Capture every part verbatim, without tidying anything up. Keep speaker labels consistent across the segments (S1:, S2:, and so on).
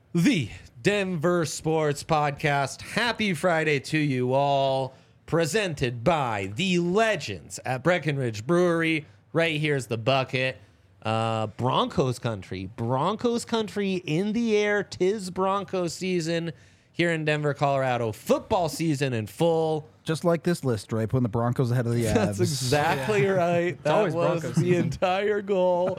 S1: The Denver Sports Podcast. Happy Friday to you all. Presented by the legends at Breckenridge Brewery. Right here's the bucket. Uh, Broncos country. Broncos country in the air. 'Tis Broncos season here in Denver, Colorado. Football season in full.
S2: Just like this list, right? Putting the Broncos ahead of the Avs.
S1: That's exactly yeah. right. That was Broncos. The entire goal.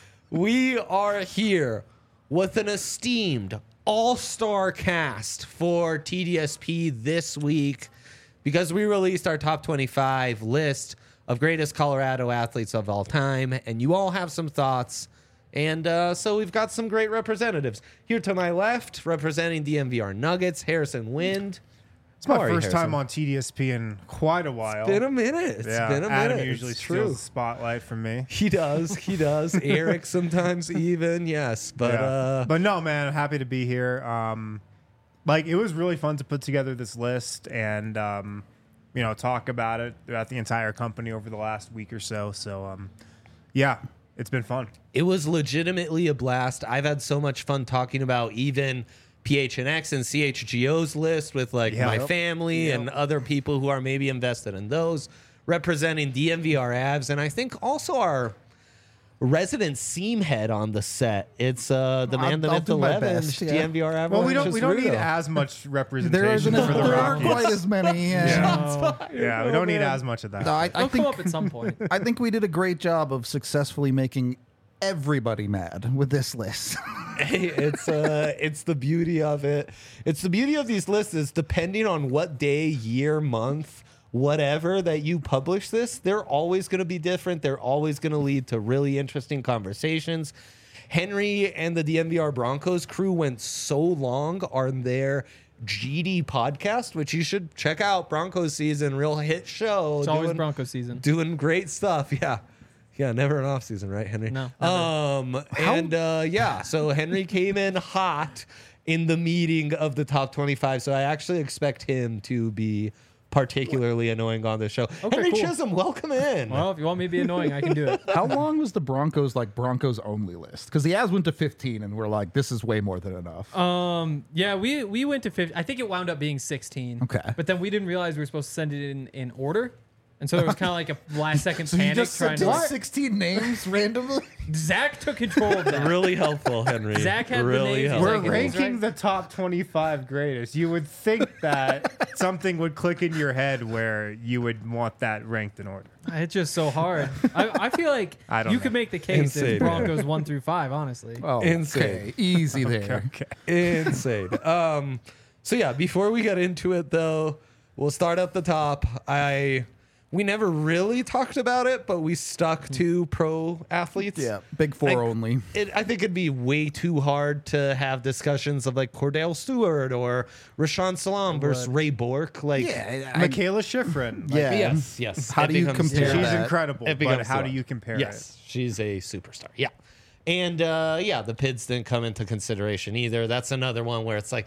S1: We are here with an esteemed all-star cast for T D S P this week because we released our top twenty-five list of greatest Colorado athletes of all time, and you all have some thoughts. And uh, so we've got some great representatives. Here to my left, representing the M V R Nuggets, Harrison Wind.
S3: It's my
S1: How
S3: first
S1: you,
S3: time on T D S P in quite a while.
S1: It's been a minute. It's
S3: yeah,
S1: been a
S3: Adam
S1: minute.
S3: usually
S1: it's
S3: steals
S1: true.
S3: the spotlight from me.
S1: He does. He does. Eric sometimes even. Yes. But
S3: yeah.
S1: uh,
S3: but no, man, I'm happy to be here. Um, like, it was really fun to put together this list and, um, you know, talk about it throughout the entire company over the last week or so. So, um, yeah, it's been fun.
S1: It was legitimately a blast. I've had so much fun talking about even P H N X and C H G O's list with like
S3: Yep.
S1: my family
S3: Yep.
S1: and other people who are maybe invested in those, representing D M V R Avs, and I think also our resident seam head on the set. It's uh, the man,
S2: I'll-
S1: the
S2: I'll
S1: myth, the
S2: do my
S1: legend,
S2: best, yeah.
S1: D M V R Avs.
S3: Well, we don't we don't need as much
S2: There
S3: representation
S2: isn't
S3: for the
S2: there aren't
S3: Rockies.
S2: quite as many. Yeah.
S3: Yeah, yeah we don't need as much of that.
S2: No, I, I
S4: They'll
S2: think
S4: come up at some point.
S2: I think we did a great job of successfully making everybody mad with this list.
S1: Hey, it's uh it's the beauty of it. It's the beauty of these lists is depending on what day, year, month, whatever that you publish this, they're always going to be different. They're always going to lead to really interesting conversations. Henry and the D M V R Broncos crew went so long on their G D podcast, which you should check out. Broncos season, real hit show.
S4: It's always
S1: doing-
S4: Broncos season.
S1: Doing great stuff. Yeah. Yeah, never an off season, right, Henry?
S4: No, never.
S1: Um, and uh, yeah, so Henry came in hot in the meeting of the top twenty-five. So I actually expect him to be particularly annoying on this show.
S4: Okay,
S1: Henry
S4: cool.
S1: Chisholm, welcome in.
S4: Well, if you want me to be annoying, I can do it.
S2: How long was the Broncos like Broncos only list? Because the Avs went to fifteen, and we're like, this is way more than enough.
S4: Um, yeah, we we went to fifty. I think it wound up being sixteen.
S2: Okay.
S4: But then we didn't realize we were supposed to send it in in order. And so there was kind of like a last second
S2: so you
S4: panic
S2: just
S4: trying
S2: sent
S4: to.
S2: in sixteen names randomly.
S4: Zach took control of that.
S1: Really helpful, Henry.
S4: Zach had the
S1: really
S4: names.
S1: helpful.
S3: We're
S4: like, it is,
S3: ranking
S4: right?
S3: the top twenty-five greatest. You would think that something would click in your head where you would want that ranked in order.
S4: It's just so hard. I, I feel like
S3: I don't
S4: you
S3: know.
S4: could make the case
S1: Insane,
S4: as Broncos one through five. Honestly.
S2: Oh,
S1: Insane.
S2: okay. Easy there.
S3: Okay.
S1: Insane. Um, so yeah, before we get into it though, we'll start at the top. I we never really talked about it, but we stuck to pro athletes.
S2: Yeah, big four
S1: Like,
S2: only.
S1: It, I think it'd be way too hard to have discussions of like Cordell Stewart or Rashawn Salam versus Ray Bork. Like,
S2: Yeah, I-
S3: Michaela Schifrin. Like,
S2: yeah.
S1: yes, yes.
S2: How
S1: It
S2: do you
S1: becomes-
S2: compare
S3: She's
S2: that?
S3: incredible,
S1: It
S3: but
S1: becomes
S3: how
S1: too
S3: do
S1: hard.
S3: you compare
S1: Yes, she's a superstar. Yeah. And uh, yeah, the P I Ds didn't come into consideration either. That's another one where it's like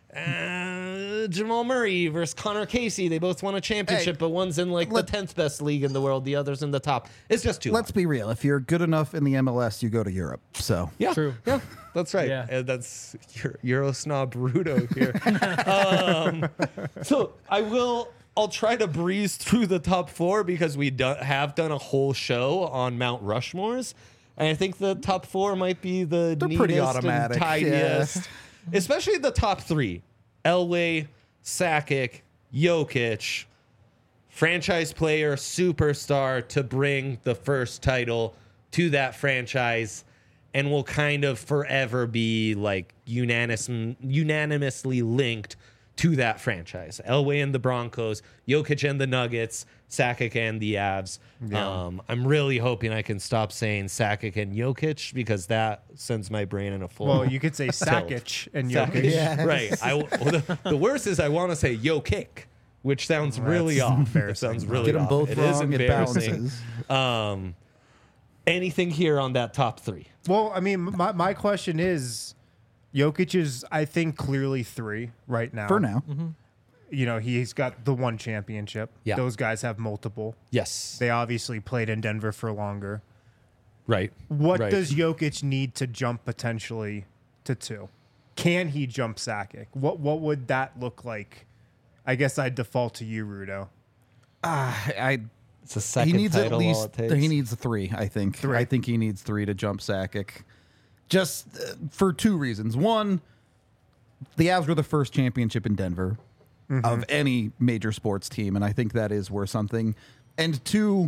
S1: uh, Jamal Murray versus Connor Casey. They both won a championship,
S2: Hey,
S1: but one's in like
S2: let-
S1: the tenth best league in the world. The other's in the top. It's just too
S2: Let's
S1: hard.
S2: be real. If you're good enough in the M L S, you go to Europe. So
S1: Yeah.
S4: True.
S1: Yeah, that's right.
S4: Yeah.
S1: And that's Euro, Euro snob Rudo here. um, so I will. I'll try to breeze through the top four because we do, have done a whole show on Mount Rushmores. And I think the top four might be the
S2: They're
S1: neatest
S2: pretty
S1: and
S2: automatic,
S1: tidiest. Especially the top three. Elway, Sakic, Jokic, franchise player, superstar to bring the first title to that franchise and will kind of forever be like unanimous, unanimously linked to that franchise. Elway and the Broncos, Jokic and the Nuggets, Sakic and the Avs.
S3: Yeah.
S1: Um, I'm really hoping I can stop saying Sakic and Jokic because that sends my brain in a full.
S3: Well, you could say Sakic and
S1: Sakic.
S3: Jokic.
S2: Yeah.
S1: Right. I, well, the, the worst is I want to say Jokic, which sounds
S3: Well,
S1: really
S3: that's
S1: off. It
S3: embarrassing.
S1: sounds really
S2: get them
S1: off.
S2: both
S1: It is
S2: wrong. It
S1: embarrassing.
S2: bounces.
S1: Um, anything here on that top three?
S3: Well, I mean, my, my question is, Jokic is, I think, clearly three right now.
S2: For now.
S3: You know, he's got the one championship.
S1: Yeah.
S3: Those guys have multiple.
S1: Yes.
S3: They obviously played in Denver for longer.
S1: Right.
S3: What
S1: Right.
S3: does Jokic need to jump potentially to two? can he jump Sakic? What what would that look like? I guess I'd default to you, Rudo.
S2: Uh, I
S1: It's a second
S2: he needs at
S1: title, all
S2: least
S1: it takes.
S2: he needs a three. I think.
S3: Three.
S2: I think he needs three to jump Sakic, just uh, for two reasons. One, the Avs were the first championship in Denver
S3: Mm-hmm.
S2: of any major sports team, and I think that is worth something. And two,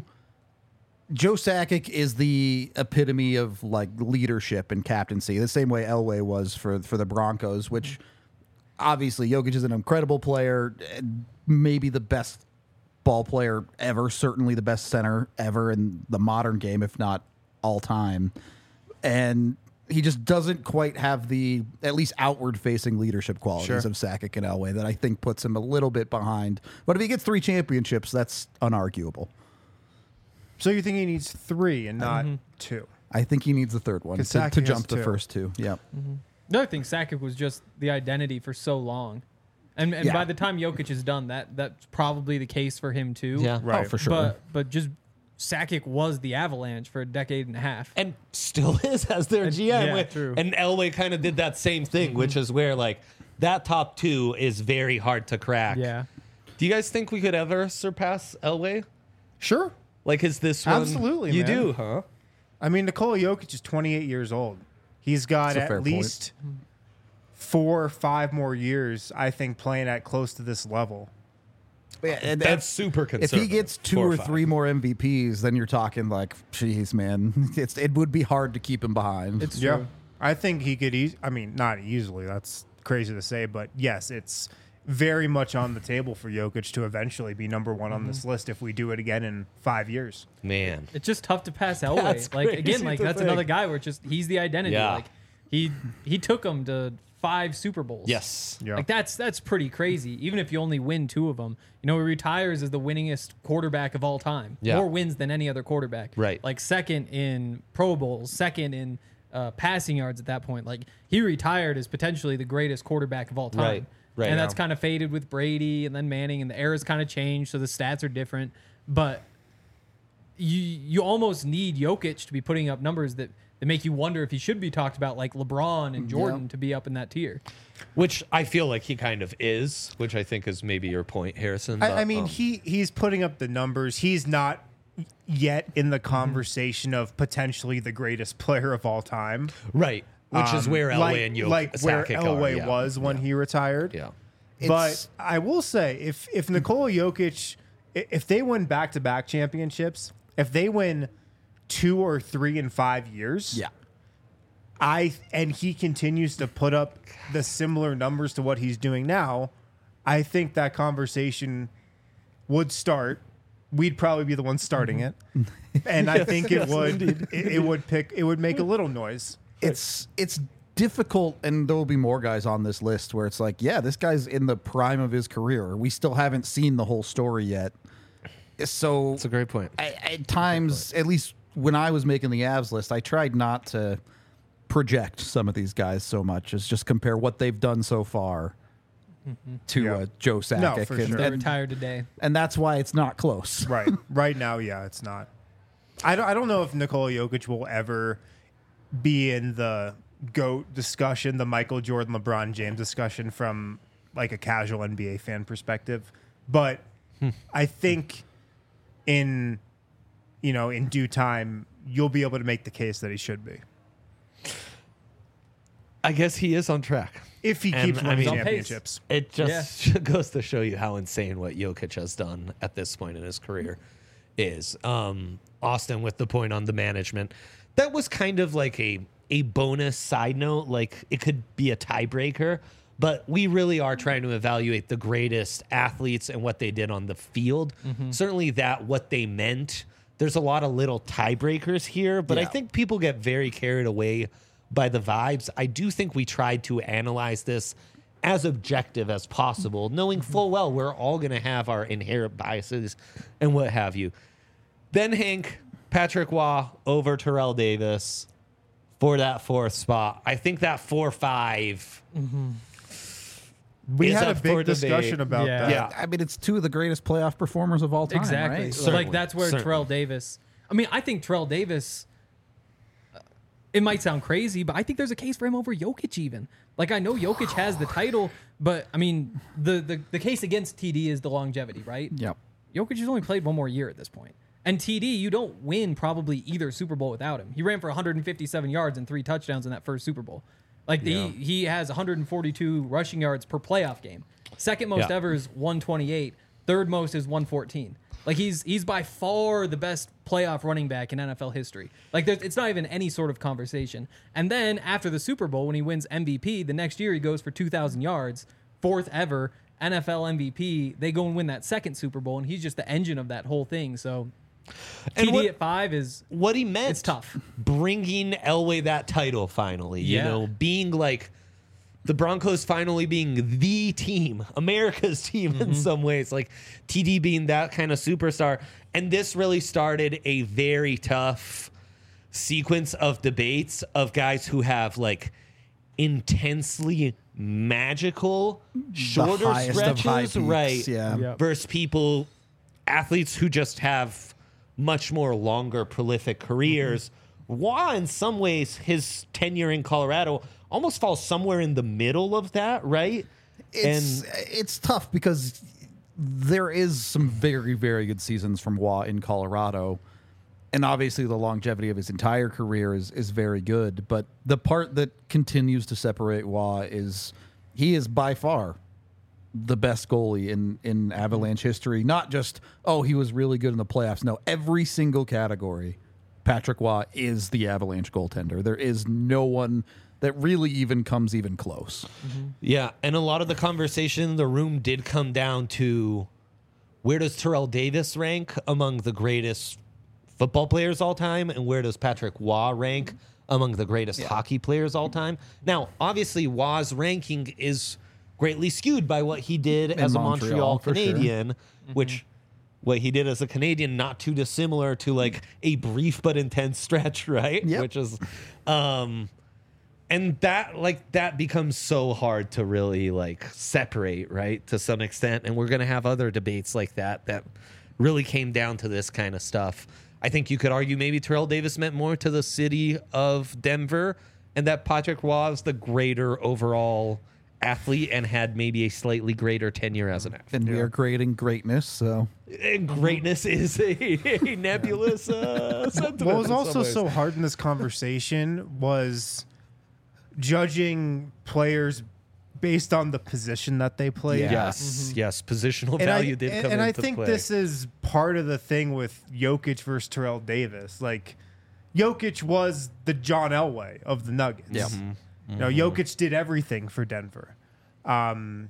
S2: Joe Sakic is the epitome of like leadership and captaincy, the same way Elway was for for the Broncos. Which obviously Jokic is an incredible player, maybe the best ball player ever, certainly the best center ever in the modern game, if not all time. And he just doesn't quite have the at least outward facing leadership qualities
S3: Sure.
S2: of Sakic and Elway that I think puts him a little bit behind. But if he gets three championships, that's unarguable.
S3: So you think he needs three and not
S4: Mm-hmm.
S3: two?
S2: I think he needs the third one
S3: 'Cause
S2: to,
S3: Sakic
S2: to
S3: has
S2: jump the
S3: two.
S2: first two. Yeah.
S4: The other thing, Sakic was just the identity for so long. And, and
S2: Yeah.
S4: by the time Jokic is done, that that's probably the case for him too.
S1: Yeah.
S3: Right.
S2: Oh, for sure.
S4: But but just Sakic was the Avalanche for a decade and a half.
S1: and still is as their
S4: And-
S1: G M.
S4: yeah,
S1: with-
S4: true.
S1: And Elway kind of did that same thing, which is where like that top two is very hard to crack.
S4: Yeah.
S1: Do you guys think we could ever surpass Elway?
S3: Sure.
S1: Like, is this one?
S3: Absolutely,
S1: You
S3: man.
S1: do, huh?
S3: I mean, Nikola Jokic is twenty-eight years old. He's got
S2: That's a fair
S3: at
S2: point.
S3: least four or five more years, I think, playing at close to this level.
S2: Yeah, and
S1: That's
S2: if-
S1: super
S2: If
S1: conservative.
S2: he gets two
S1: Four
S2: or
S1: five.
S2: three more M V Ps, then you're talking like, geez, man, it's it would be hard to keep him behind.
S4: It's
S3: Yeah.
S4: true.
S3: I think he could eas I mean, not easily. That's crazy to say, but yes, it's very much on the table for Jokic to eventually be number one on this list if we do it again in five years.
S1: Man.
S4: It's just tough to pass Elway.
S1: That's
S4: like
S1: crazy
S4: again, like
S1: to
S4: that's
S1: think.
S4: another guy where it's just he's the identity.
S1: Yeah.
S4: Like he he took him to five Super Bowls.
S1: Yes.
S3: Yeah.
S4: Like that's that's pretty crazy. Even if you only win two of them, you know, he retires as the winningest quarterback of all time.
S1: Yeah.
S4: More wins than any other quarterback.
S1: Right.
S4: Like second in Pro Bowls, second in uh, passing yards at that point. Like he retired as potentially the greatest quarterback of all time.
S1: Right. Right.
S4: And that's
S1: Yeah.
S4: kind of faded with Brady and then Manning, and the era's kind of changed, so the stats are different. But you you almost need Jokic to be putting up numbers that, that make you wonder if he should be talked about like LeBron and Jordan
S2: Yeah.
S4: to be up in that tier.
S1: Which I feel like he kind of is, which I think is maybe your point, Harrison. but,
S3: I, I mean,
S1: um,
S3: he he's putting up the numbers. He's not yet in the conversation of potentially the greatest player of all time.
S1: right. Which is
S3: Um,
S1: where Elway
S3: like,
S1: and Jokic
S3: like where
S1: Sakic are,
S3: Elway
S1: yeah.
S3: was when he retired.
S1: Yeah.
S3: But
S2: It's-
S3: I will say, if if Nikola Jokic, i- if they win back to back championships, if they win two or three in five years,
S2: yeah.
S3: I and he continues to put up the similar numbers to what he's doing now, I think that conversation would start. We'd probably be the ones starting it, and I think it would it, it would pick it would make a little noise.
S2: It's it's difficult, and there will be more guys on this list where it's like, yeah, this guy's in the prime of his career. We still haven't seen the whole story yet. So
S1: That's a great point.
S2: I, at times, at least when I was making the Avs list, I tried not to project some of these guys so much as just compare what they've done so far to
S3: Yeah.
S2: uh, Joe Sakic.
S3: for
S2: and,
S3: sure.
S4: They
S2: and,
S4: retired today.
S2: and that's why it's not close.
S3: Right, right now, yeah, it's not. I don't. I don't know if Nikola Jokic will ever be in the GOAT discussion, the Michael Jordan, LeBron James discussion from like a casual N B A fan perspective, but I think in you know in due time you'll be able to make the case that he should be
S1: I guess he is on track.
S3: if he
S1: And,
S3: keeps
S1: I
S3: winning
S1: mean-
S3: championships.
S1: It just goes to show you how insane what Jokic has done at this point in his career is. Um, Austin with the point on the management. That was kind of like a a bonus side note. Like it could be a tiebreaker, but we really are trying to evaluate the greatest athletes and what they did on the field. Certainly that what they meant. There's a lot of little tiebreakers here, but I
S2: Yeah.
S1: think people get very carried away by the vibes. I do think we tried to analyze this as objective as possible, knowing full well we're all going to have our inherent biases and what have you. Ben Hank, Patrick Waugh over Terrell Davis for that fourth spot. I think that four five.
S3: We
S1: is
S3: had a
S1: up for
S3: big
S1: debate.
S3: discussion about
S4: Yeah.
S3: that.
S1: Yeah.
S2: I mean, it's two of the greatest playoff performers of all time.
S4: Exactly.
S2: Right?
S4: So
S1: Certainly.
S4: like that's where
S1: Certainly.
S4: Terrell Davis. I mean, I think Terrell Davis. uh, It might sound crazy, but I think there's a case for him over Jokic even. Like, I know Jokic has the title, but I mean, the the, the case against T D is the longevity, right?
S2: Yep.
S4: Jokic has only played one more year at this point. And T D, you don't win probably either Super Bowl without him. He ran for one hundred fifty-seven yards and three touchdowns in that first Super Bowl. Like,
S1: Yeah.
S4: he, he has one hundred forty-two rushing yards per playoff game. Second most
S1: Yeah.
S4: ever is one twenty-eight. Third most is one fourteen. Like, he's he's by far the best playoff running back in N F L history. Like, there's, it's not even any sort of conversation. And then after the Super Bowl, when he wins M V P, the next year he goes for two thousand yards, fourth ever, N F L M V P. They go and win that second Super Bowl, and he's just the engine of that whole thing. So
S1: And
S4: T D
S1: what-
S4: at five is
S1: What he meant,
S4: It's tough.
S1: bringing Elway that title finally, you
S4: Yeah.
S1: know, being like the Broncos finally being the team, America's team in some ways, like T D being that kind of superstar. And this really started a very tough sequence of debates of guys who have like intensely magical shorter
S2: highest of high
S1: stretches,
S2: peaks,
S1: right?
S2: yeah.
S4: Yep.
S1: Versus people, athletes who just have much more longer, prolific careers. Wah, in some ways, his tenure in Colorado almost falls somewhere in the middle of that, right?
S2: It's it's tough because there is some very very good seasons from Waugh in Colorado, and obviously the longevity of his entire career is is very good. But the part that continues to separate Waugh is he is by far the best goalie in in Avalanche history. Not just oh he was really good in the playoffs. No, every single category, Patrick Waugh is the Avalanche goaltender. There is no one that really even comes even close.
S1: Yeah, and a lot of the conversation in the room did come down to where does Terrell Davis rank among the greatest football players all time, and where does Patrick Waugh rank among the greatest hockey players all time? Now, obviously, Waugh's ranking is greatly skewed by what he did as a
S2: Montreal,
S1: Montreal
S2: for sure.
S1: Canadian, which what he did as a Canadian, not too dissimilar to like a brief but intense stretch, right?
S2: Yep.
S1: Which is, um, and that like that becomes so hard to really like separate, right? To some extent, and we're gonna have other debates like that that really came down to this kind of stuff. I think you could argue maybe Terrell Davis meant more to the city of Denver, and that Patrick Waugh is the greater overall athlete and had maybe a slightly greater tenure as an athlete.
S2: And we are creating greatness, so
S1: And greatness is a, a nebulous uh, sentiment.
S3: What was
S1: in some
S3: also
S1: ways.
S3: so hard in this conversation was judging players based on the position that they played.
S2: Yeah.
S1: Yes, yes, positional
S3: And
S1: value
S3: I,
S1: did
S3: and,
S1: come
S3: and I
S1: into
S3: think
S1: play.
S3: this is part of the thing with Jokic versus Terrell Davis. Like, Jokic was the John Elway of the Nuggets.
S2: Yeah.
S3: You know, Jokic did everything for Denver. Um,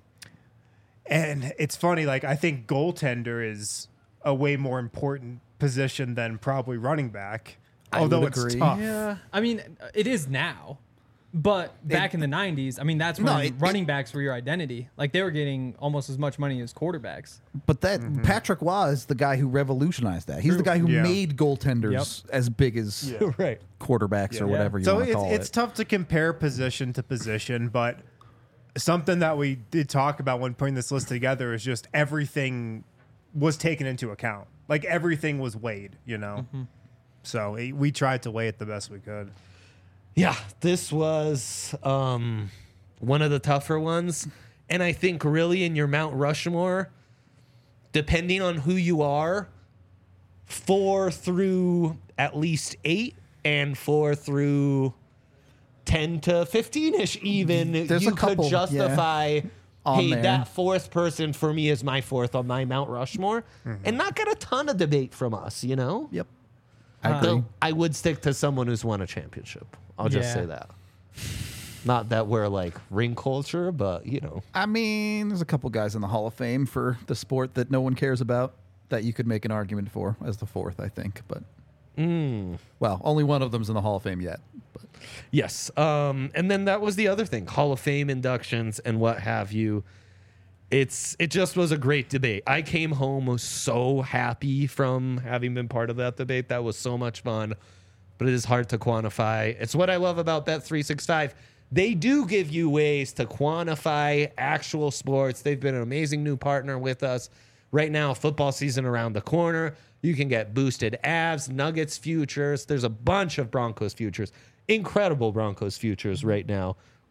S3: and it's funny, like, I think goaltender is a way more important position than probably running back.
S2: I
S3: Although
S2: would
S3: it's
S2: agree.
S3: tough.
S4: Yeah, I mean, it is now. But back in the nineties, I mean, that's when
S2: No, it-
S4: running backs were your identity. Like, they were getting almost as much money as quarterbacks.
S2: but that Patrick Waugh is the guy who revolutionized that. He's the guy who
S3: Yeah.
S2: made goaltenders as big as
S1: right.
S2: quarterbacks or
S3: Yeah.
S2: whatever you
S3: so
S2: want to
S3: it's,
S2: call
S3: it's
S2: it.
S3: tough to compare position to position, but something that we did talk about when putting this list together is just everything was taken into account. Like, everything was weighed, you know? So it, we tried to weigh it the best we could.
S1: Yeah, this was um, one of the tougher ones. And I think really in your Mount Rushmore, depending on who you are, four through at least eight and four through ten to fifteen-ish even,
S2: There's
S1: you
S2: a couple,
S1: could justify,
S2: On
S1: hey,
S2: there.
S1: that fourth person for me is my fourth on my Mount Rushmore. And not get a ton of debate from us, you know?
S2: Yep. I
S4: Uh,
S2: agree.
S1: Though I would stick to someone who's won a championship. I'll just
S4: Yeah.
S1: say that. Not that we're like ring culture, but you know.
S2: I mean, there's a couple guys in the Hall of Fame for the sport that no one cares about that you could make an argument for as the fourth, I think. But well, only one of them's in the Hall of Fame yet. But
S1: Yes. Um, and then that was the other thing, Hall of Fame inductions and what have you. It's it just was a great debate. I came home so happy from having been part of that debate. That was so much fun, but it is hard to quantify. It's what I love about Bet three sixty-five. They do give you ways to quantify actual sports. They've been an amazing new partner with us. Right now, football season around the corner. You can get boosted Avs, Nuggets futures. There's a bunch of Broncos futures. Incredible Broncos futures right now.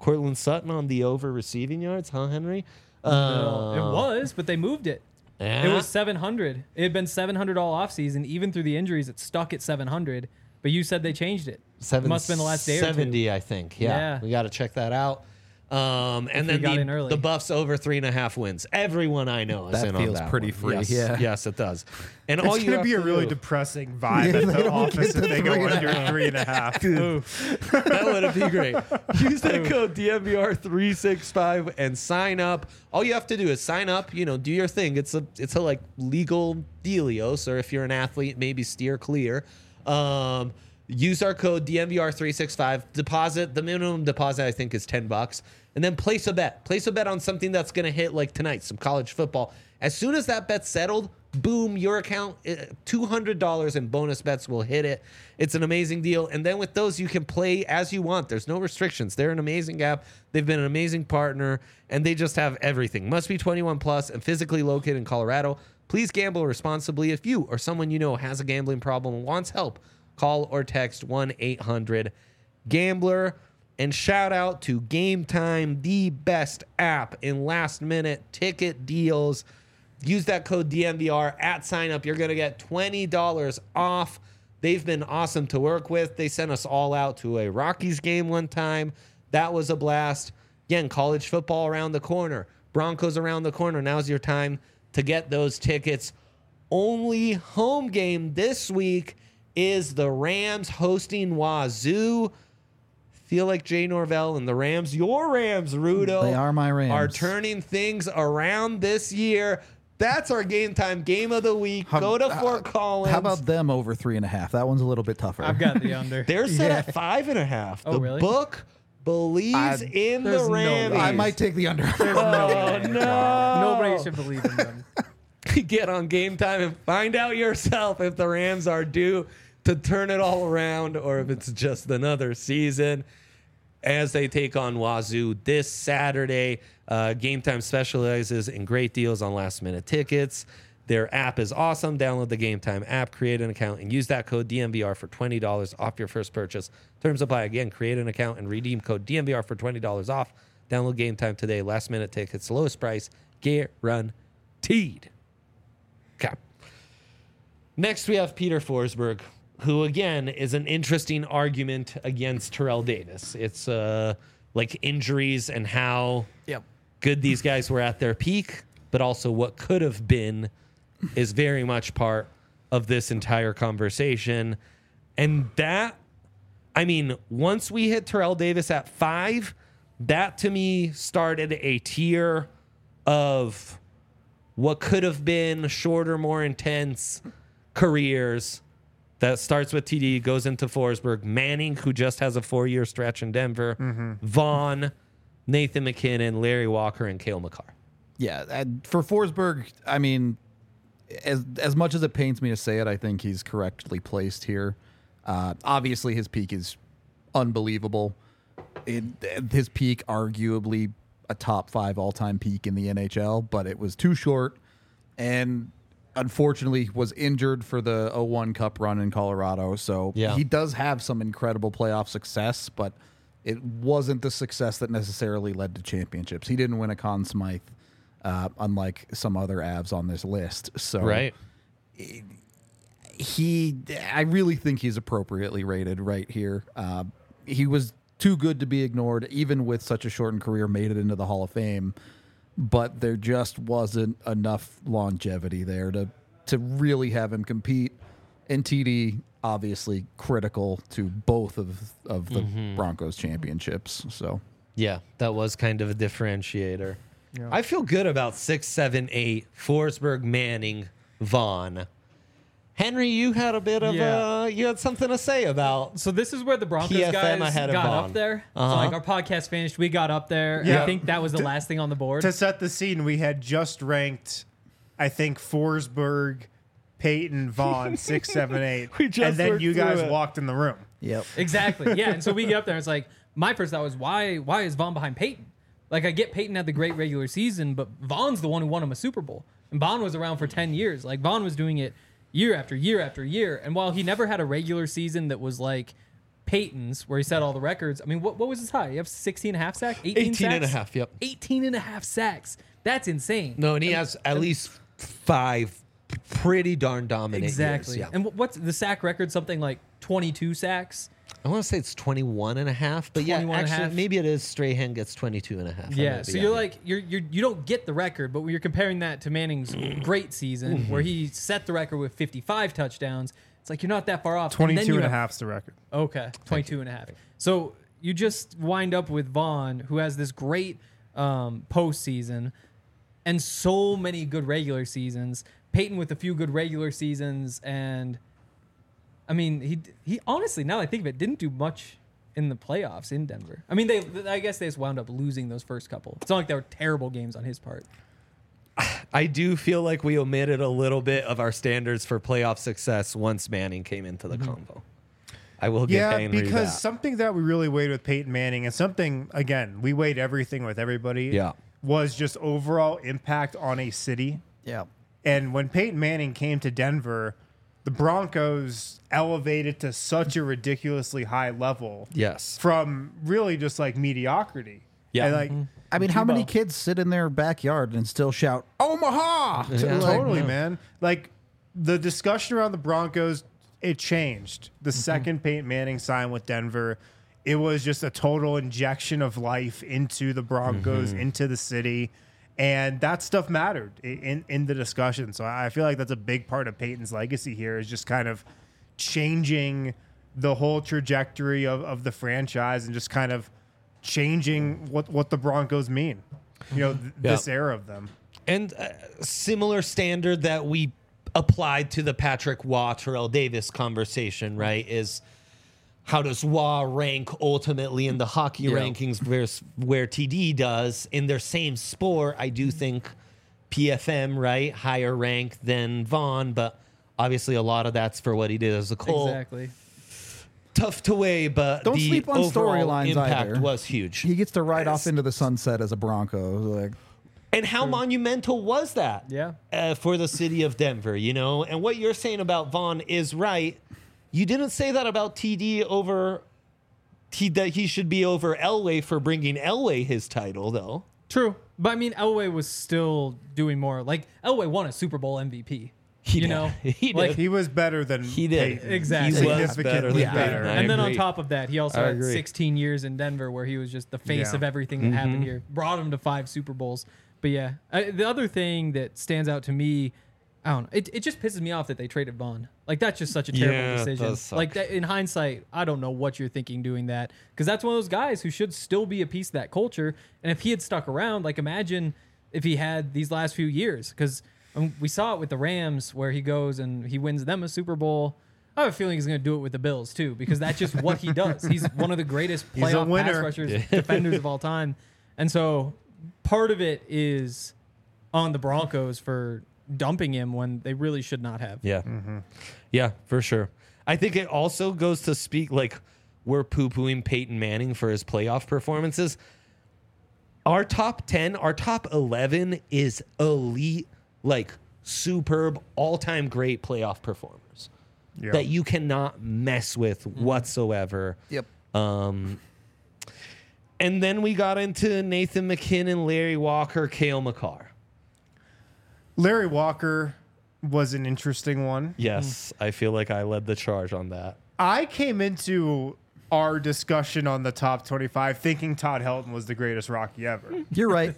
S1: Cortland Sutton on the over receiving yards, huh, Henry?
S4: No,
S1: Uh,
S4: it was, but they moved it.
S1: yeah.
S4: It was seven hundred. It had been seven hundred all offseason. Even through the injuries, it stuck at seven hundred. But you said they changed it.
S1: Seven,
S4: It must have been the last day or two.
S1: seventy, I think. Yeah,
S4: Yeah.
S1: we got to check that out. Um, and
S4: we
S1: then
S4: got
S1: the,
S4: in early.
S1: the Buffs over three and a half wins. Everyone I know is
S2: That
S1: in
S2: feels
S1: on that
S2: pretty
S1: one.
S2: free,
S1: Yes,
S2: yeah.
S1: yes, it does. And all
S3: It's
S1: you
S3: going to
S1: have
S3: be a
S1: to
S3: really
S1: do-
S3: depressing vibe
S2: Yeah,
S3: at
S2: they
S3: the
S2: don't
S3: office
S2: get
S3: if
S2: to
S3: they go
S2: three and a
S3: under
S2: half.
S3: three and a half.
S1: that would be great. Use that code D M V R three six five and sign up. All you have to do is sign up. You know, do your thing. It's a it's a like legal dealios, or if you're an athlete, maybe steer clear. Um, use our code D M V R three six five. Deposit the minimum deposit I think is ten bucks, and then place a bet. Place a bet on something that's gonna hit like tonight, some college football. As soon as that bet's settled, boom, your account, two hundred dollars in bonus bets will hit it. It's an amazing deal. And then with those, you can play as you want. There's no restrictions. They're an amazing app. They've been an amazing partner, and they just have everything. Must be twenty-one plus and physically located in Colorado. Please gamble responsibly. If you or someone you know has a gambling problem and wants help, call or text one eight hundred gambler. And shout out to Game Time, the best app in last-minute ticket deals. Use that code D M V R at sign up. You're going to get twenty dollars off. They've been awesome to work with. They sent us all out to a Rockies game one time. That was a blast. Again, college football around the corner. Broncos around the corner. Now's your time to get those tickets. Only home game this week is the Rams hosting Wazoo. Feel like Jay Norvell and the Rams, your Rams, Rudo,
S2: They are my Rams.
S1: are turning things around this year. That's our Game Time game of the week.
S2: How-
S1: Go to Fort Collins.
S2: How about them over three and a half? That one's a little bit tougher.
S4: I've got the under.
S1: they're set at five and a half?
S4: Oh,
S1: the
S4: really?
S1: book believes
S2: I-
S1: in
S4: there's
S1: the
S4: no
S1: Rams.
S4: way.
S2: I might take the under.
S1: Oh no!
S4: Nobody should believe in them.
S1: Get on Game Time and find out yourself if the Rams are due to turn it all around or if it's just another season as they take on Wazoo this Saturday. Uh, Game Time specializes in great deals on last-minute tickets. Their app is awesome. Download the Game Time app, create an account, and use that code D M V R for twenty dollars off your first purchase. Terms apply. Again, create an account and redeem code D M V R for twenty dollars off. Download Game Time today. Last-minute tickets, lowest price, guaranteed. Okay. Next, we have Peter Forsberg, who, again, is an interesting argument against Terrell Davis. It's uh, like injuries and how
S2: Yep.
S1: good these guys were at their peak, but also what could have been is very much part of this entire conversation. And that, I mean, once we hit Terrell Davis at five, that to me started a tier of what could have been shorter, more intense careers that starts with T D, goes into Forsberg, Manning, who just has a four-year stretch in Denver,
S3: Mm-hmm.
S1: Vaughn, Nathan McKinnon, Larry Walker, and Cale Makar.
S2: Yeah, and for Forsberg, I mean, as as much as it pains me to say it, I think he's correctly placed here. Uh, obviously, his peak is unbelievable. It, his peak, arguably a top five all-time peak in the N H L, but it was too short, and unfortunately was injured for the oh one Cup run in Colorado. So
S1: Yeah.
S2: he does have some incredible playoff success, but it wasn't the success that necessarily led to championships. He didn't win a Conn Smythe, uh, unlike some other Avs on this list. So
S1: Right.
S2: he, I really think he's appropriately rated right here. Uh, he was too good to be ignored, even with such a shortened career, made it into the Hall of Fame. But there just wasn't enough longevity there to to really have him compete. And T D, obviously critical to both of of the Broncos championships. So
S1: Yeah, that was kind of a differentiator.
S3: Yeah.
S1: I feel good about six, seven, eight, Forsberg, Manning, Vaughn. Henry, you had a bit of
S4: Yeah.
S1: uh, you had something to say about.
S4: So this is where the Broncos
S1: P F M
S4: guys
S1: ahead of
S4: got
S1: Vaughn.
S4: up there.
S1: Uh-huh.
S4: So like our podcast finished, we got up there.
S3: Yeah.
S4: I think that was the last thing on the board.
S3: To set the scene, we had just ranked, I think, Forsberg, Peyton, Vaughn, six, seven, eight.
S1: We just
S3: and then
S1: worked
S3: you
S1: through
S3: guys
S1: it.
S3: walked in the room.
S2: yep.
S4: Exactly. Yeah. And so we get up there and it's like, my first thought was, why why is Vaughn behind Peyton? Like I get Peyton had the great regular season, but Vaughn's the one who won him a Super Bowl. And Vaughn was around for ten years. Like Vaughn was doing it year after year after year. And while he never had a regular season that was like Peyton's, where he set all the records. I mean, what what was his high? You have sixteen and a half sacks? eighteen,
S1: eighteen
S4: sacks?
S1: and a half, yep.
S4: eighteen and a half sacks. That's insane.
S1: No, and he has at least five pretty darn dominant
S4: Exactly.
S1: years. Yeah.
S4: And wh- what's the sack record? Something like twenty-two sacks?
S1: I want to say it's twenty-one and a half, but yeah,
S4: twenty-one and a
S1: actually,
S4: half.
S1: maybe it is Strahan gets twenty-two and a half. I
S4: Yeah,
S1: might
S4: so
S1: be
S4: you're
S1: out.
S4: like you're you're you don't get the record, but when you're comparing that to Manning's great season where he set the record with fifty-five touchdowns, it's like you're not that far off. And then
S3: twenty-two
S4: you
S3: and a
S4: have-
S3: half's the record.
S4: Okay, twenty-two and a half. So you just wind up with Vaughn, who has this great um, postseason and so many good regular seasons. Peyton with a few good regular seasons, and I mean, he he honestly, now that I think of it, didn't do much in the playoffs in Denver. I mean, they I guess they just wound up losing those first couple. It's not like they were terrible games on his part.
S1: I do feel like we omitted a little bit of our standards for playoff success once Manning came into the convo. I will give
S3: Yeah,
S1: Henry
S3: because
S1: that.
S3: something that we really weighed with Peyton Manning, and something again we weighed everything with everybody.
S1: Yeah.
S3: was just overall impact on a city.
S2: Yeah.
S3: And when Peyton Manning came to Denver, the Broncos elevated to such a ridiculously high level
S1: Yes.
S3: from really just like mediocrity.
S1: Yeah.
S3: And, like
S2: I mean, how many
S3: Tebow.
S2: kids sit in their backyard and still shout Omaha? To,
S1: Yeah.
S2: like,
S3: Totally, man. Like the discussion around the Broncos, it changed. The
S1: Mm-hmm.
S3: second Peyton Manning signed with Denver, it was just a total injection of life into the Broncos,
S1: Mm-hmm.
S3: into the city. And that stuff mattered i- in, in the discussion. So I feel like that's a big part of Peyton's legacy here is just kind of changing the whole trajectory of, of the franchise and just kind of changing what, what the Broncos mean. You know, th-
S1: Yeah.
S3: this era of them.
S1: And a similar standard that we applied to the Patrick Waugh, Terrell Davis conversation, right, is how does Waugh rank ultimately in the hockey
S2: Yeah.
S1: rankings versus where T D does in their same sport? I do think P F M, right, higher rank than Vaughn, but obviously a lot of that's for what he did as a Colt.
S4: Exactly.
S1: Tough to weigh, but
S2: Don't
S1: the
S2: sleep on
S1: overall
S2: storylines
S1: impact
S2: either.
S1: was huge.
S2: He gets to ride off into the sunset as a Bronco. Like,
S1: And how monumental was that?
S4: Yeah.
S1: Uh, for the city of Denver, you know? And what you're saying about Vaughn is right. You didn't say that about T D over he, that he should be over Elway for bringing Elway his title, though.
S4: True. But I mean, Elway was still doing more. Like, Elway won a Super Bowl M V P.
S1: He
S4: you
S1: did.
S4: know?
S1: He
S4: Like,
S1: did.
S3: He was better than
S1: He did.
S3: Peyton.
S4: Exactly.
S1: He was
S3: Significantly
S1: better than
S3: better.
S1: Peyton. I
S4: and then on
S1: agree.
S4: top of that, he also
S1: I
S4: had
S1: agree.
S4: sixteen years in Denver where he was just the face
S3: Yeah.
S4: of everything that
S1: Mm-hmm.
S4: happened here. Brought him to five Super Bowls. But yeah, I, the other thing that stands out to me, I don't know, it, it just pisses me off that they traded Vaughn. Like, that's just such a terrible
S1: Yeah, it
S4: decision.
S1: does suck.
S4: Like, that, in hindsight, I don't know what you're thinking doing that. Because that's one of those guys who should still be a piece of that culture. And if he had stuck around, like, imagine if he had these last few years. Because um, we saw it with the Rams where he goes and he wins them a Super Bowl. I have a feeling he's going to do it with the Bills, too, because that's just what he does. He's one of the greatest
S3: He's a
S4: playoff pass
S3: winner.
S4: rushers, defenders of all time. And so part of it is on the Broncos for dumping him when they really should not have.
S1: Yeah. Yeah, for sure. I think it also goes to speak like we're poo-pooing Peyton Manning for his playoff performances. Our top ten, our top eleven is elite, like superb, all-time great playoff performers
S3: Yeah.
S1: that you cannot mess with whatsoever.
S2: yep.
S1: Um, and then we got into Nathan McKinnon, Larry Walker, Cale Makar.
S3: Larry Walker was an interesting one.
S1: Yes, I feel like I led the charge on that.
S3: I came into our discussion on the top twenty-five thinking Todd Helton was the greatest Rocky ever.
S2: You're right.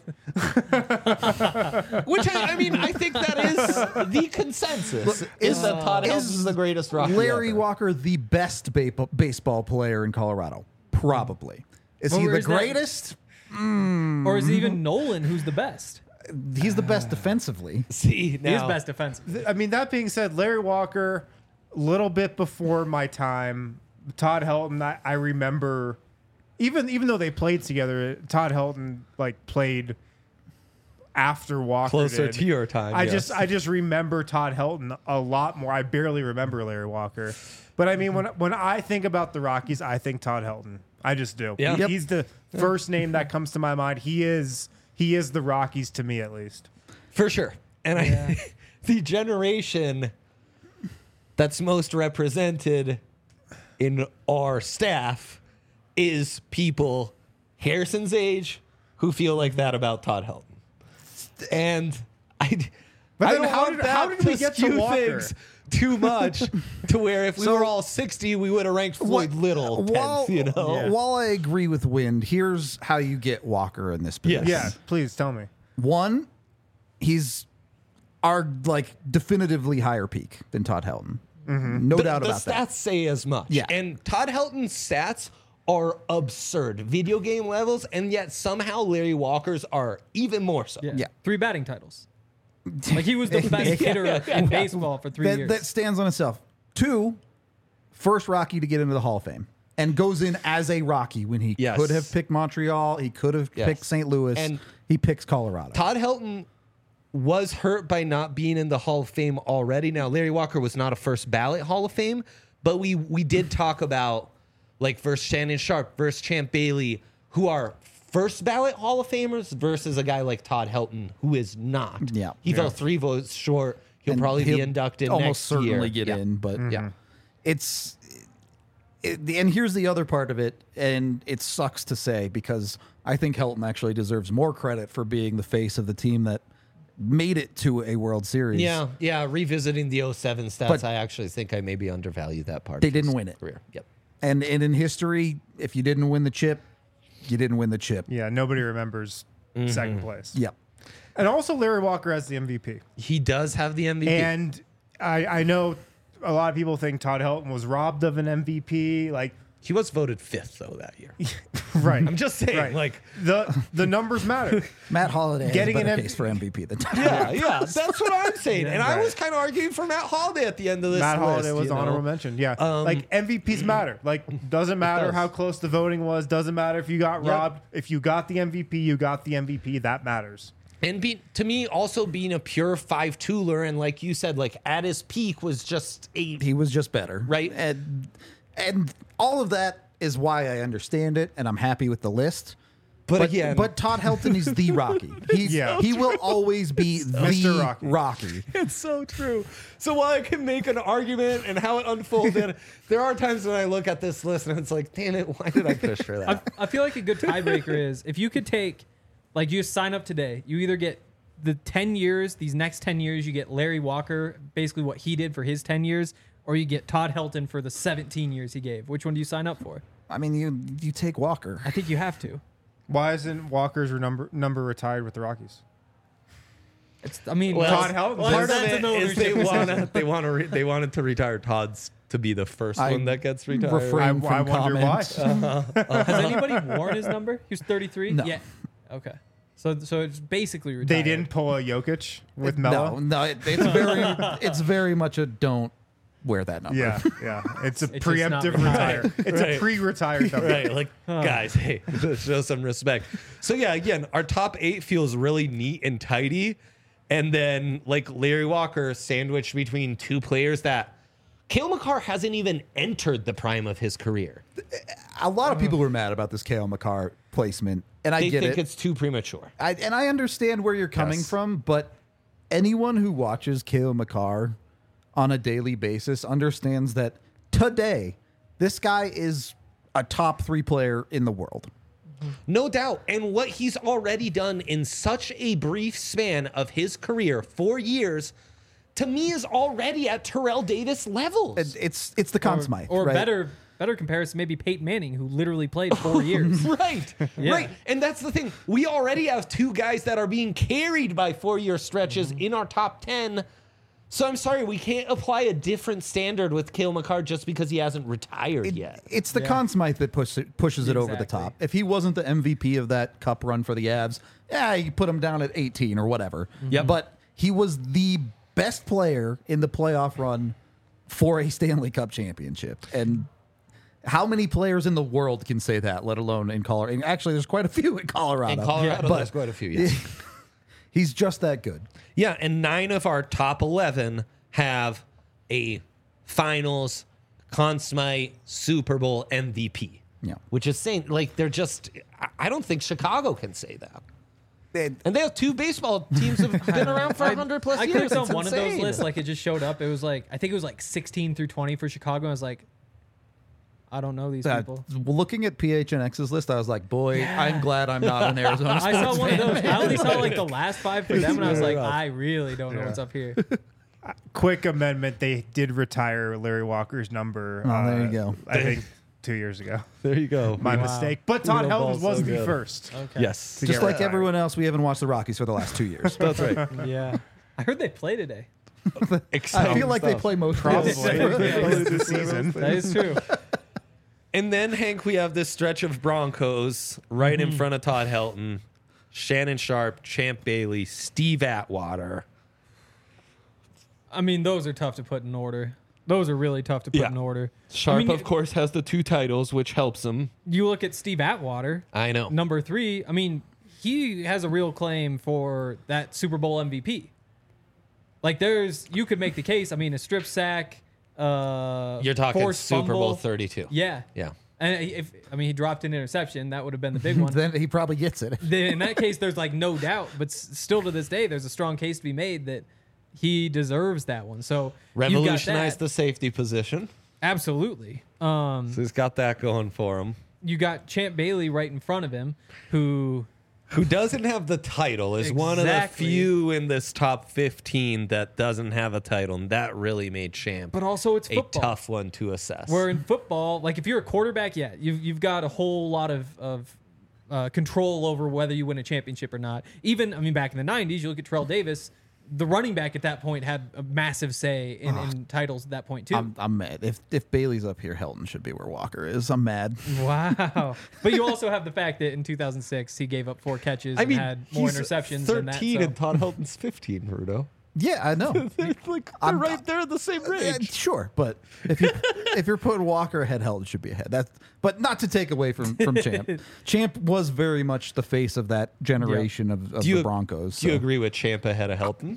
S1: Which I, I mean, I think that is the consensus. Is,
S2: is-
S1: that Todd Helton
S2: is
S1: is the greatest Rocky
S2: Larry
S1: ever.
S2: Walker, the best ba- baseball player in Colorado? Probably. Is
S4: Well,
S2: he the
S4: where's that-
S2: greatest?
S4: Or is it even Nolan who's the best?
S2: He's the best defensively.
S1: See now,
S4: He is best defensive.
S3: I mean, that being said, Larry Walker, a little bit before my time. Todd Helton, I, I remember, even even though they played together, Todd Helton like played after Walker.
S1: Closer
S3: did.
S1: to your time,
S3: I
S1: yes.
S3: just I just remember Todd Helton a lot more. I barely remember Larry Walker, but I mean when when I think about the Rockies, I think Todd Helton. I just do.
S1: Yeah.
S3: He-
S1: Yep.
S3: He's the first name that comes to my mind. He is he is the Rockies to me at least.
S1: for sure. And I, the generation that's most represented in our staff is people Harrison's age who feel like that about Todd Helton. And I,
S3: But
S1: I
S3: then
S1: don't
S3: how
S1: want
S3: did-
S1: that
S3: how did
S1: to
S3: we get to
S1: skew
S3: Walker?
S1: things too much to where if we
S2: So-
S1: were all sixty, we would have ranked Floyd Little
S2: While,
S1: tenth, you know?
S3: Yeah.
S2: while I agree with Wind, here's how you get Walker in this
S1: Yes.
S2: position.
S3: Yeah, please tell me.
S2: One, he's our like definitively higher peak than Todd Helton. No
S1: the,
S2: doubt
S1: the
S2: about
S1: stats
S2: that.
S1: say as much.
S2: Yeah.
S1: And Todd Helton's stats are absurd, video game levels, and yet somehow Larry Walker's are even more so.
S4: Yeah.
S2: Yeah.
S4: Three batting titles. Like he was the best hitter in baseball for three
S2: That,
S4: years.
S2: that stands on itself. Two, first Rocky to get into the Hall of Fame. And goes in as a Rocky when he
S1: Yes.
S2: could have picked Montreal. He could have
S1: Yes.
S2: picked Saint Louis.
S1: And
S2: he picks Colorado.
S1: Todd Helton was hurt by not being in the Hall of Fame already. Now, Larry Walker was not a first ballot Hall of Fame, but we we did talk about like versus Shannon Sharp versus Champ Bailey, who are first ballot Hall of Famers versus a guy like Todd Helton, who is not.
S2: Yeah.
S1: He
S3: Yeah.
S1: fell three votes short. He'll
S2: And
S1: probably
S2: he'll
S1: be inducted
S2: almost
S1: next
S2: certainly
S1: year.
S2: get
S1: Yeah.
S2: in, but
S1: Yeah.
S2: it's it, and here's the other part of it, and it sucks to say because I think Helton actually deserves more credit for being the face of the team that made it to a World Series.
S1: Yeah, yeah. Revisiting the oh seven stats,
S2: But-
S1: I actually think I maybe undervalue that part.
S2: They
S1: of his
S2: didn't win it.
S1: Career. Yep.
S2: And, and in history, if you didn't win the chip, you didn't win the chip.
S3: Yeah, nobody remembers
S1: Mm-hmm.
S3: second place.
S2: Yep.
S3: And also Larry Walker as the M V P.
S1: He does have the M V P.
S3: And I, I know a lot of people think Todd Helton was robbed of an M V P. Like,
S1: he was voted fifth though that year.
S3: right.
S1: I'm just saying,
S3: Right.
S1: like,
S3: the the numbers matter.
S2: Matt Holiday
S3: Getting
S2: has a better
S3: an M-
S2: case for M V P than
S1: yeah, yeah, that's what I'm saying. And I
S3: Right.
S1: was kind of arguing for Matt Holiday at the end of this
S3: Matt
S1: list.
S3: Holiday was
S1: you know?
S3: honorable mention. Yeah.
S1: Um,
S3: like M V Ps matter. Like doesn't matter
S1: does.
S3: how close the voting was. Doesn't matter if you got
S1: Yep.
S3: robbed. If you got the M V P, you got the M V P. That matters.
S1: And be, to me, also being a pure five-tooler, and like you said, like at his peak was just a
S2: he was just better.
S1: Right.
S2: And and all of that is why I understand it and I'm happy with the list.
S1: But,
S2: But
S1: again,
S2: but Todd Helton is the Rocky. He's,
S3: Yeah.
S2: He will always be the
S3: Mister Rocky.
S2: Rocky.
S1: it's so true. So while I can make an argument and how it unfolded, there are times when I look at this list and it's like, damn it, why did I push for
S4: I,
S1: that?
S4: I feel like a good tiebreaker is if you could take, like, you sign up today, you either get the ten years, these next ten years, you get Larry Walker, basically what he did for his ten years, or you get Todd Helton for the seventeen years he gave. Which one do you sign up for?
S2: I mean, you you take Walker.
S4: I think you have to.
S3: Why isn't Walker's number number retired with the Rockies?
S4: It's, I mean,
S1: Well,
S3: Todd Helton.
S4: well,
S1: part of
S4: that's
S1: it
S4: another
S1: is they
S4: conversation.
S1: want to they want to re- they wanted to retire Todd's to be the first
S2: I
S1: one that gets retired.
S2: refrain
S3: I, I
S2: from
S3: wonder
S2: comment.
S3: why.
S4: Has anybody worn his number? He was thirty-three?
S2: No.
S4: Yeah. Okay. So so it's basically retired.
S3: They didn't pull a Jokic with Melo.
S2: No, no, it, it's very it's very much a don't wear that number.
S3: Yeah, yeah. It's a
S4: It's just not
S3: preemptive
S4: retired.
S3: retire. It's
S1: Right.
S3: a pre-retired number.
S1: Right, like guys, hey, show some respect. So yeah, again, our top eight feels really neat and tidy, and then like Larry Walker sandwiched between two players that Cale Makar hasn't even entered the prime of his career.
S2: A lot of people were mad about this Cale Makar placement, and I
S1: They
S2: get
S1: think
S2: it.
S1: it's too premature.
S2: I, and I understand where you're coming
S1: Yes.
S2: from, but anyone who watches Cale Makar on a daily basis understands that today this guy is a top three player in the world.
S1: No doubt. And what he's already done in such a brief span of his career, four years, to me is already at Terrell Davis levels.
S2: It, it's it's the Conn Smythe,
S4: Or
S2: right?
S4: better better comparison, maybe Peyton Manning, who literally played four years.
S1: Right,
S4: Yeah.
S1: right. And that's the thing. We already have two guys that are being carried by four-year stretches
S2: Mm-hmm.
S1: in our top ten. So I'm sorry, we can't apply a different standard with Cale Makar just because he hasn't retired
S2: It-
S1: yet.
S2: It's the
S4: Yeah.
S2: Conn Smythe that push it, pushes it over the
S4: Exactly.
S2: top. If he wasn't the M V P of that cup run for the Avs, yeah, you put him down at eighteen or whatever.
S1: Yep.
S2: But he was the best player in the playoff run for a Stanley Cup championship. And how many players in the world can say that, let alone in Colorado? And actually, there's quite a few in Colorado.
S1: In Colorado,
S2: but
S1: there's quite a few, yes.
S2: he's just that good.
S1: Yeah, and nine of our top eleven have a finals, Conn Smythe, Super Bowl M V P.
S2: Yeah.
S1: Which is saying, like, they're just, I- I don't think Chicago can say that.
S2: And
S1: And they have two baseball teams that have been around for one hundred plus
S4: I
S1: years.
S4: clicked on
S1: It's
S4: one of those
S1: insane.
S4: lists, like it just showed up. It was like I think it was like sixteen through twenty for Chicago. I was like, I don't know these
S2: Uh,
S4: people.
S2: looking at P H N X's list, I was like, boy,
S4: Yeah.
S2: I'm glad I'm not an Arizona
S4: I
S2: sports
S4: saw one of
S2: fan.
S4: those. I only saw like the last five for them, and I was like,
S1: rough.
S4: I really don't know
S3: Yeah.
S4: what's up here.
S3: Quick amendment: they did retire Larry Walker's number.
S2: Oh, there you
S3: uh,
S2: go.
S3: I think two years ago.
S1: There you go.
S3: My
S4: Wow.
S3: mistake. But Todd
S1: Real
S3: Helton
S1: ball,
S3: was
S1: so
S3: the
S1: good.
S3: first.
S4: Okay.
S1: Yes.
S3: To
S2: Just
S3: get
S2: like
S3: retired.
S2: everyone else, we haven't watched the Rockies for the last two years.
S1: That's right.
S4: Yeah. I heard they play today.
S2: I feel like they play most
S3: Probably
S2: days.
S3: this season.
S4: That is true.
S1: And then, Hank, we have this stretch of Broncos right in front of Todd Helton, Shannon Sharp, Champ Bailey, Steve Atwater.
S4: I mean, those are tough to put in order. Those are really tough to put
S1: Yeah.
S4: in order.
S1: Sharp,
S4: I mean,
S1: of course, has the two titles, which helps him.
S4: You look at Steve Atwater,
S1: I know.
S4: number three. I mean, he has a real claim for that Super Bowl M V P. Like, there's, you could make the case. I mean, a strip sack. Uh,
S1: You're talking
S4: forced
S1: Super Bowl
S4: fumble.
S1: thirty-two.
S4: Yeah.
S1: Yeah.
S4: And if I mean, he dropped an interception, that would have been the big one.
S2: Then he probably gets it.
S4: Then in that case, there's like no doubt. But s- still to this day, there's a strong case to be made that he deserves that one. So
S1: Revolutionized
S4: the
S1: the safety position.
S4: absolutely. Um,
S1: So he's got that going for him.
S4: you got Champ Bailey right in front of him, who
S1: Who doesn't have the title is one of the
S4: Exactly.
S1: few in this top fifteen that doesn't have a title, and that really made Champ
S4: but also it's
S1: a
S4: football.
S1: tough one to assess.
S4: Where in football, like if you're a quarterback, yeah, you've you've got a whole lot of of uh, control over whether you win a championship or not. Even I mean, back in the nineties, you look at Terrell Davis. The running back at that point had a massive say in, in titles at that point too.
S2: I'm, I'm mad. If if Bailey's up here, Helton should be where Walker is. I'm mad.
S4: Wow. But you also have the fact that in two thousand six, he gave up four catches
S1: I mean,
S4: and had more
S1: he's
S4: interceptions than that.
S1: thirteen
S4: So.
S1: and Todd Helton's fifteen, Rudo.
S2: Yeah, I know.
S1: They're like they're
S2: I'm-
S1: right there at the same
S2: Yeah,
S1: range.
S2: sure, but if you if you're putting Walker ahead, Helton should be ahead. That's but not to take away from from Champ. Champ was very much the face of that generation of, of
S1: Do you-
S2: the Broncos.
S1: Do you
S2: so-
S1: agree with Champ ahead of Helton?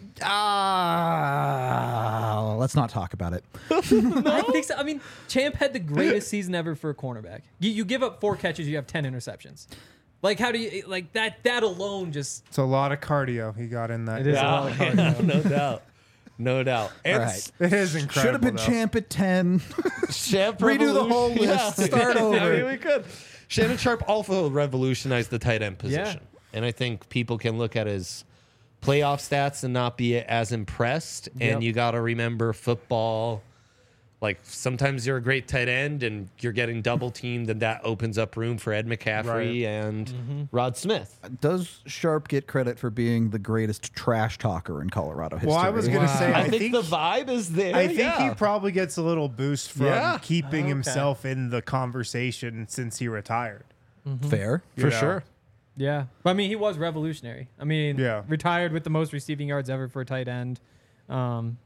S2: Ah, let's not talk about it.
S4: I think so. I mean, Champ had the greatest season ever for a cornerback. You, you give up four catches, you have ten interceptions. Like, how do you, like, that That alone just,
S3: It's a lot of cardio he got in that.
S4: It is a lot of cardio.
S1: no doubt. No doubt. And
S2: All
S1: s-
S2: right.
S3: It is incredible.
S2: Should have been
S3: though.
S2: Champ at ten.
S1: Champ
S2: Redo the whole
S1: revolution-
S2: list. Start over.
S1: I mean, we could. Shannon Sharp also revolutionized the tight end position. And I think people can look at his playoff stats and not be as impressed.
S4: Yep.
S1: And you got to remember football. Like sometimes you're a great tight end and you're getting double teamed, and that opens up room for Ed McCaffrey
S3: Right.
S1: and
S4: Mm-hmm.
S1: Rod Smith.
S2: Does Sharp get credit for being the greatest trash talker in Colorado history?
S3: Well, I was gonna say,
S1: I,
S3: I
S1: think,
S3: think-
S1: the vibe is there.
S3: I think
S1: yeah.
S3: he probably gets a little boost from
S1: Yeah.
S3: keeping
S4: Okay.
S3: himself in the conversation since he retired.
S2: fair.
S3: you
S1: for
S3: know?
S1: sure.
S4: yeah. But I mean, he was revolutionary. I mean,
S3: Yeah.
S4: retired with the most receiving yards ever for a tight end. Um,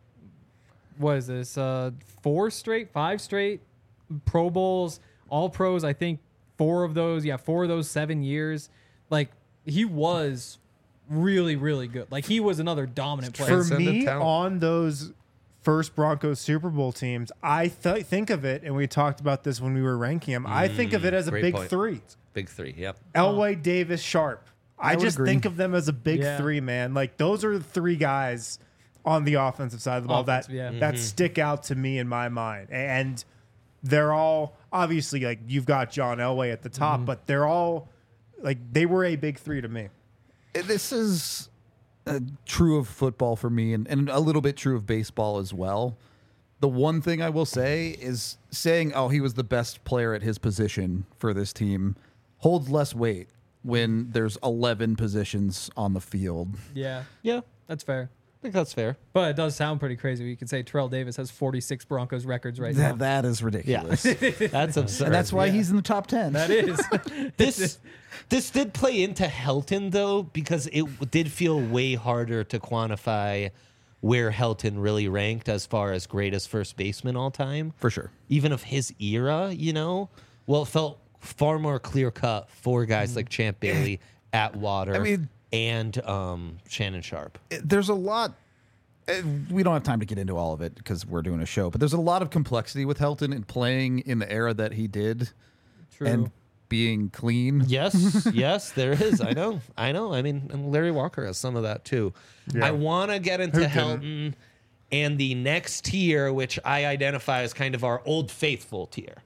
S4: what is this? Uh, four straight, five straight Pro Bowls, all pros. I think four of those. Yeah, four of those seven years. Like, he was really, really good. Like, he was another dominant player.
S3: For
S1: Transcendent
S3: me,
S1: talent.
S3: on those first Broncos Super Bowl teams, I th- think of it, and we talked about this when we were ranking them. I think of it as a
S1: great
S3: big
S1: point.
S3: three:
S1: Big three. Yep.
S3: Elway, Davis, Sharp. I,
S2: would
S3: just
S2: agree.
S3: think of them as a big
S4: Yeah.
S3: three, man. Like those are the three guys on the offensive side of the ball that
S4: Offensive, yeah.
S3: that stick out to me in my mind, and they're all obviously like you've got John Elway at the top, but they're all like they were a big three to me.
S2: This is uh, true of football for me, and, and a little bit true of baseball as well. The one thing I will say is saying, oh, he was the best player at his position for this team holds less weight when there's eleven positions on the field.
S4: Yeah,
S1: Yeah.
S4: that's fair.
S1: I think that's fair.
S4: But it does sound pretty crazy. You could say Terrell Davis has forty-six Broncos records right
S2: That,
S4: now.
S2: that is ridiculous.
S1: That's absurd.
S2: And that's why
S4: Yeah.
S2: he's in the top ten.
S4: That is.
S1: this this did play into Helton though, because it did feel way harder to quantify where Helton really ranked as far as greatest first baseman all time,
S2: For sure.
S1: even of his era. You know, well, it felt far more clear cut for guys like Champ Bailey, Atwater,
S2: I mean-
S1: and um, Shannon Sharp.
S2: There's a lot. uh, We don't have time to get into all of it because we're doing a show, but there's a lot of complexity with Helton and playing in the era that he did
S4: True.
S2: and being clean.
S1: Yes, yes, there is. I know, I know. I mean, and Larry Walker has some of that too.
S3: Yeah.
S1: I want to get into
S3: Who didn't?
S1: Helton and the next tier, which I identify as kind of our old faithful tier.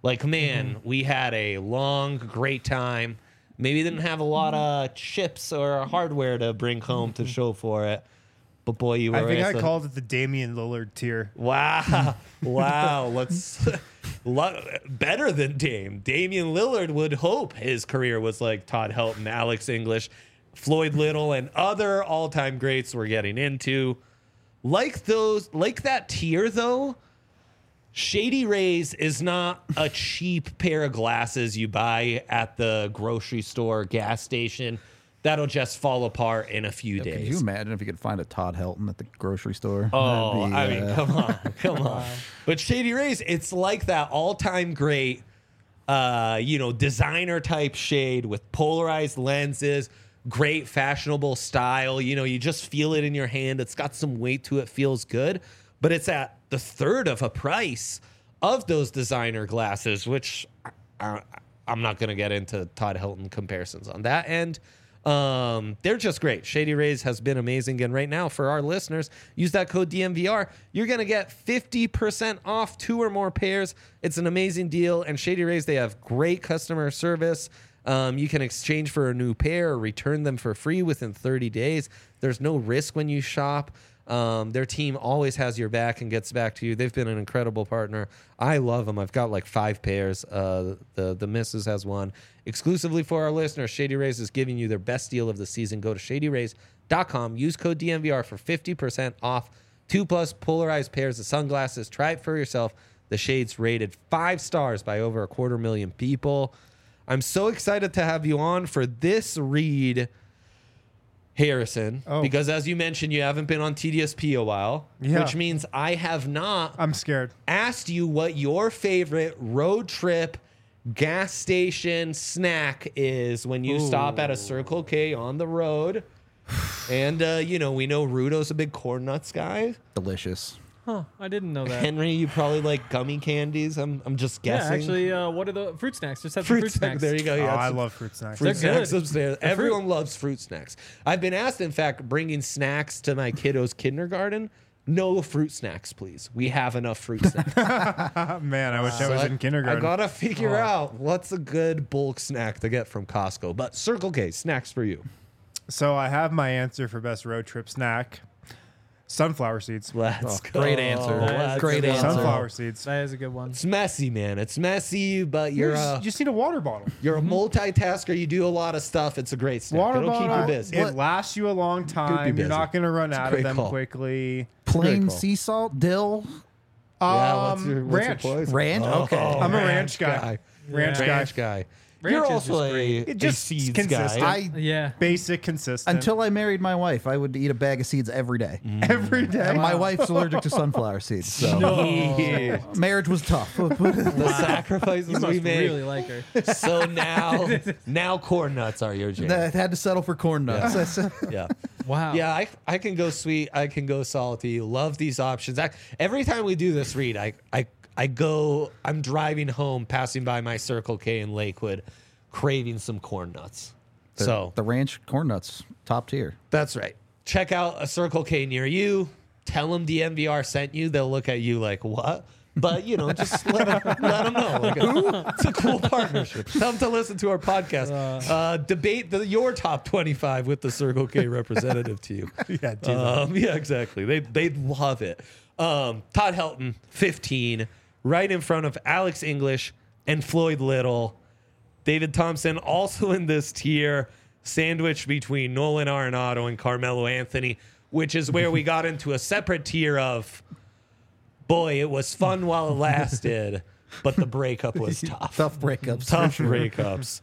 S1: Like, man,
S3: Mm-hmm.
S1: we had a long, great time. Maybe didn't have a lot of chips or hardware to bring home to show for it. But boy, you were.
S3: I think I
S1: so-
S3: called it the Damian Lillard tier.
S1: Wow. Wow. Let's lo- better than Dame. Damian Lillard would hope his career was like Todd Helton, Alex English, Floyd Little, and other all-time greats we're getting into. Like those, like that tier though, Shady Rays is not a cheap pair of glasses you buy at the grocery store, gas station. That'll just fall apart in a few
S2: Could
S1: days.
S2: you imagine if you could find a Todd Helton at the grocery store?
S1: Oh,
S2: That'd be,
S1: I mean,
S2: uh,
S1: come on, come on. But Shady Rays, it's like that all-time great, uh, you know, designer type shade with polarized lenses, great fashionable style. You know, you just feel it in your hand. It's got some weight to it, feels good, but it's at the third of a price of those designer glasses, which I, I'm not going to get into Todd Helton comparisons on that end. Um, they're just great. Shady Rays has been amazing. And right now, for our listeners, use that code D M V R. You're going to get fifty percent off two or more pairs. It's an amazing deal. And Shady Rays, they have great customer service. Um, you can exchange for a new pair or return them for free within thirty days. There's no risk when you shop. Um, their team always has your back and gets back to you. They've been an incredible partner. I love them. I've got like five pairs. Uh, the the missus has one. Exclusively for our listeners, Shady Rays is giving you their best deal of the season. Go to shady rays dot com. Use code D M V R for fifty percent off two plus polarized pairs of sunglasses. Try it for yourself. The shades rated five stars by over a quarter million people. I'm so excited to have you on for this read, Harrison,
S3: Oh.
S1: because as you mentioned, you haven't been on T D S P a while,
S3: Yeah.
S1: which means I have not
S3: I'm scared.
S1: asked you what your favorite road trip gas station snack is when you stop at a Circle K on the road. And, uh, you know, we know Rudo's a big corn nuts guy.
S2: delicious.
S4: Huh, I didn't know that.
S1: Henry, you probably like gummy candies. I'm, I'm just
S4: Yeah,
S1: guessing.
S4: actually, uh, what are the fruit snacks? Just have some
S1: fruit,
S4: fruit snacks.
S1: There you go.
S3: Oh,
S1: Yeah,
S3: I
S1: some
S3: love fruit snacks.
S1: fruit
S4: They're
S1: snacks
S4: good.
S1: upstairs. Everyone loves fruit snacks. I've been asked, in fact, bringing snacks to my kiddos' kindergarten. No fruit snacks, please. We have enough fruit snacks.
S3: Man, I wish I
S1: So
S3: was
S1: I-
S3: in kindergarten.
S1: I gotta figure out what's a good bulk snack to get from Costco. But Circle K snacks for you.
S3: So I have my answer for best road trip snack: sunflower seeds.
S1: Let's go.
S2: Great answer.
S1: Let's
S2: Great
S1: go.
S2: answer.
S3: Sunflower seeds.
S4: That is a good one.
S1: It's messy, man. It's messy, but you're
S3: You just,
S1: a,
S3: you just need a water bottle.
S1: you're a multitasker. You do a lot of stuff. It's a great snack.
S3: Water
S1: It'll keep
S3: bottle.
S1: you busy.
S3: It lasts you a long time.
S1: busy.
S3: You're not going to run
S1: a
S3: out
S1: great
S3: of them
S1: call.
S3: quickly.
S2: Plain
S1: call.
S2: sea salt, dill,
S1: Yeah, what's
S3: Um,
S1: your, what's
S3: ranch.
S1: your poison?
S2: ranch. okay.
S3: I'm a ranch guy. Ranch guy.
S1: Ranch guy.
S4: Ranch
S1: You're
S4: is
S1: also
S4: just
S1: a,
S4: great.
S1: a
S3: It just
S1: seeds
S3: consistent.
S1: guy.
S2: I
S4: Yeah.
S3: Basic, consistent.
S2: until I married my wife, I would eat a bag of seeds every day.
S3: every day.
S2: And my wife's allergic to sunflower seeds, so
S1: Yeah.
S2: marriage was tough.
S1: The sacrifices
S4: You
S1: we
S4: must
S1: made.
S4: really like her.
S1: So now, now corn nuts are your jam.
S2: I had to settle for corn nuts. That's-
S1: Yeah.
S4: Wow.
S1: Yeah, I, I can go sweet. I can go salty. Love these options. I, every time we do this read, I, I, I go, I'm driving home, passing by my Circle K in Lakewood, craving some corn nuts.
S2: the,
S1: so
S2: the ranch corn nuts, top tier.
S1: that's right. Check out a Circle K near you. Tell them D M V R sent you. They'll look at you like, what? But, you know, just let them, let them know. Like, it's a cool partnership. Tell them to listen to our podcast. Uh, debate the, your top twenty-five with the Circle K representative to you.
S3: Yeah, do that.
S1: Um, yeah, exactly. They they'd love it. Um, Todd Helton, fifteen, right in front of Alex English and Floyd Little. David Thompson also in this tier, sandwiched between Nolan Arenado and Carmelo Anthony, which is where we got into a separate tier of, boy, it was fun while it lasted, but the breakup was tough.
S2: Tough breakups.
S1: Tough breakups.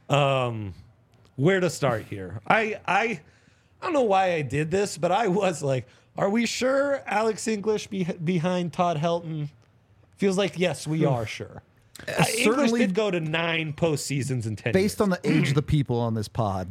S1: Um, where to start here? I I I don't know why I did this, but I was like, are we sure Alex English be, behind Todd Helton? Feels like yes, we are sure. Uh, English
S2: certainly-
S1: did go to nine postseasons in ten
S2: Based
S1: years.
S2: on the age of the people on this pod,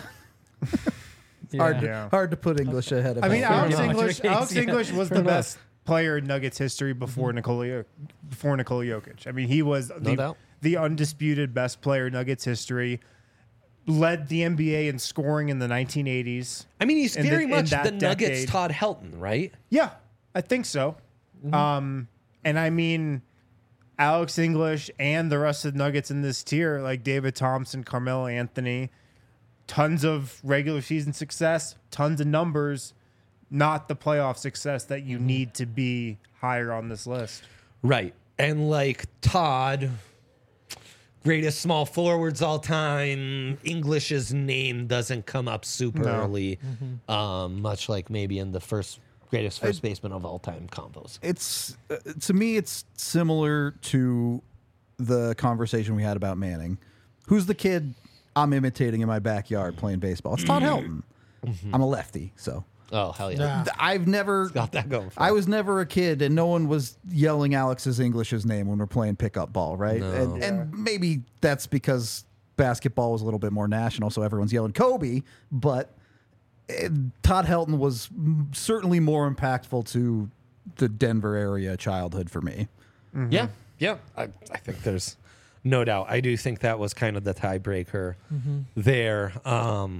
S4: Yeah.
S2: hard, to,
S3: Yeah.
S2: hard to put English ahead of.
S3: I mean,
S2: Helton.
S3: Alex
S4: enough.
S3: English.
S4: Yeah.
S3: Alex English was the
S1: enough.
S3: best player in Nuggets history before Nikola Jo- before Nikola Jokic. I mean, he was the,
S1: doubt.
S3: the undisputed best player in Nuggets history. Led the N B A in scoring in the nineteen eighties.
S1: I mean, he's
S3: in the-
S1: very
S3: in
S1: much
S3: that
S1: the Nuggets
S3: decade.
S1: Todd Helton, right?
S3: Yeah, I think so. Um, and I mean, Alex English and the rest of the Nuggets in this tier, like David Thompson, Carmelo Anthony, tons of regular season success, tons of numbers, not the playoff success that you need to be higher on this list.
S1: Right. And like Todd, greatest small forwards all time, English's name doesn't come up super
S3: No.
S1: early, um, much like maybe in the first greatest first baseman of all time combos.
S2: It's uh, to me, it's similar to the conversation we had about Manning. Who's the kid I'm imitating in my backyard playing baseball? It's Todd Helton. I'm a lefty, so
S1: Oh, hell yeah.
S2: Th- I've never
S1: Got that going for
S2: I
S1: him.
S2: was never a kid, and no one was yelling Alex's English's name when we're playing pickup ball, right?
S1: No.
S2: And, and maybe that's because basketball was a little bit more national, so everyone's yelling Kobe. But eh, Todd Helton was m- certainly more impactful to the Denver area childhood for me.
S1: Yeah, yeah. I, I think there's no doubt. I do think that was kind of the tiebreaker there. Um,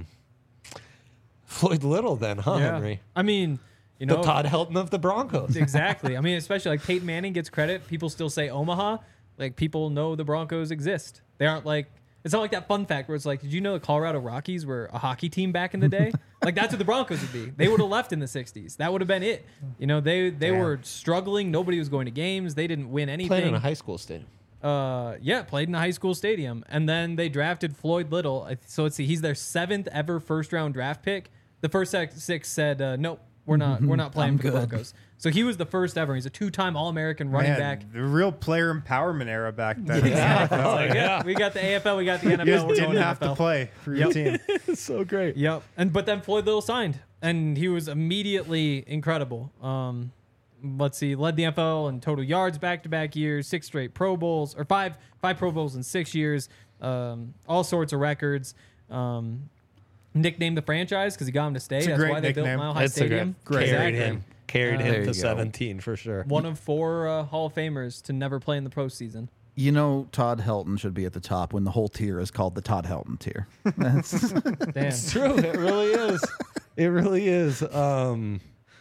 S1: Floyd Little, then, huh, Henry?
S4: I mean, you
S1: The
S4: know,
S1: Todd Helton of the Broncos.
S4: exactly. I mean, especially like Peyton Manning gets credit. People still say Omaha. Like people know the Broncos exist. They aren't like it's not like that fun fact where it's like, did you know the Colorado Rockies were a hockey team back in the day? Like that's what the Broncos would be. They would have left in the sixties. That would have been it. You know, they they
S3: Damn.
S4: were struggling. Nobody was going to games. They didn't win anything.
S1: Playing in a high school stadium.
S4: Uh, yeah, played in a high school stadium, and then they drafted Floyd Little. I- So let's see, he's their seventh ever first round draft pick. The first six six said, uh, "Nope, we're not. We're not playing
S2: I'm
S4: for the
S2: good.
S4: Broncos." So he was the first ever. He's a two time All American running
S3: Man,
S4: back.
S3: the real player empowerment era back then.
S4: Exactly. It's like, yeah, we got the A F L, we got the N F L.
S3: You just
S4: we're
S3: didn't
S4: going
S3: have
S4: N F L.
S3: to play for your team.
S1: So great.
S4: Yep. And but then Floyd Little signed, and he was immediately incredible. Um, let's see, led the N F L in total yards back to back years, six straight Pro Bowls, or five five Pro Bowls in six years, um, all sorts of records. Um, nicknamed the franchise because he got him to stay.
S3: It's a
S4: That's
S3: great
S4: why they built
S3: nickname.
S4: Mile High
S1: That's a
S4: Stadium.
S1: great. Carried
S4: Exactly.
S1: him. Carried
S4: Uh,
S1: him
S2: There
S1: to
S2: you go.
S1: seventeen for sure.
S4: One of four uh, Hall of Famers to never play in the postseason.
S2: You know, Todd Helton should be at the top when the whole tier is called the Todd Helton tier. That's,
S4: Damn.
S1: It's true. It really is. It really is. Um,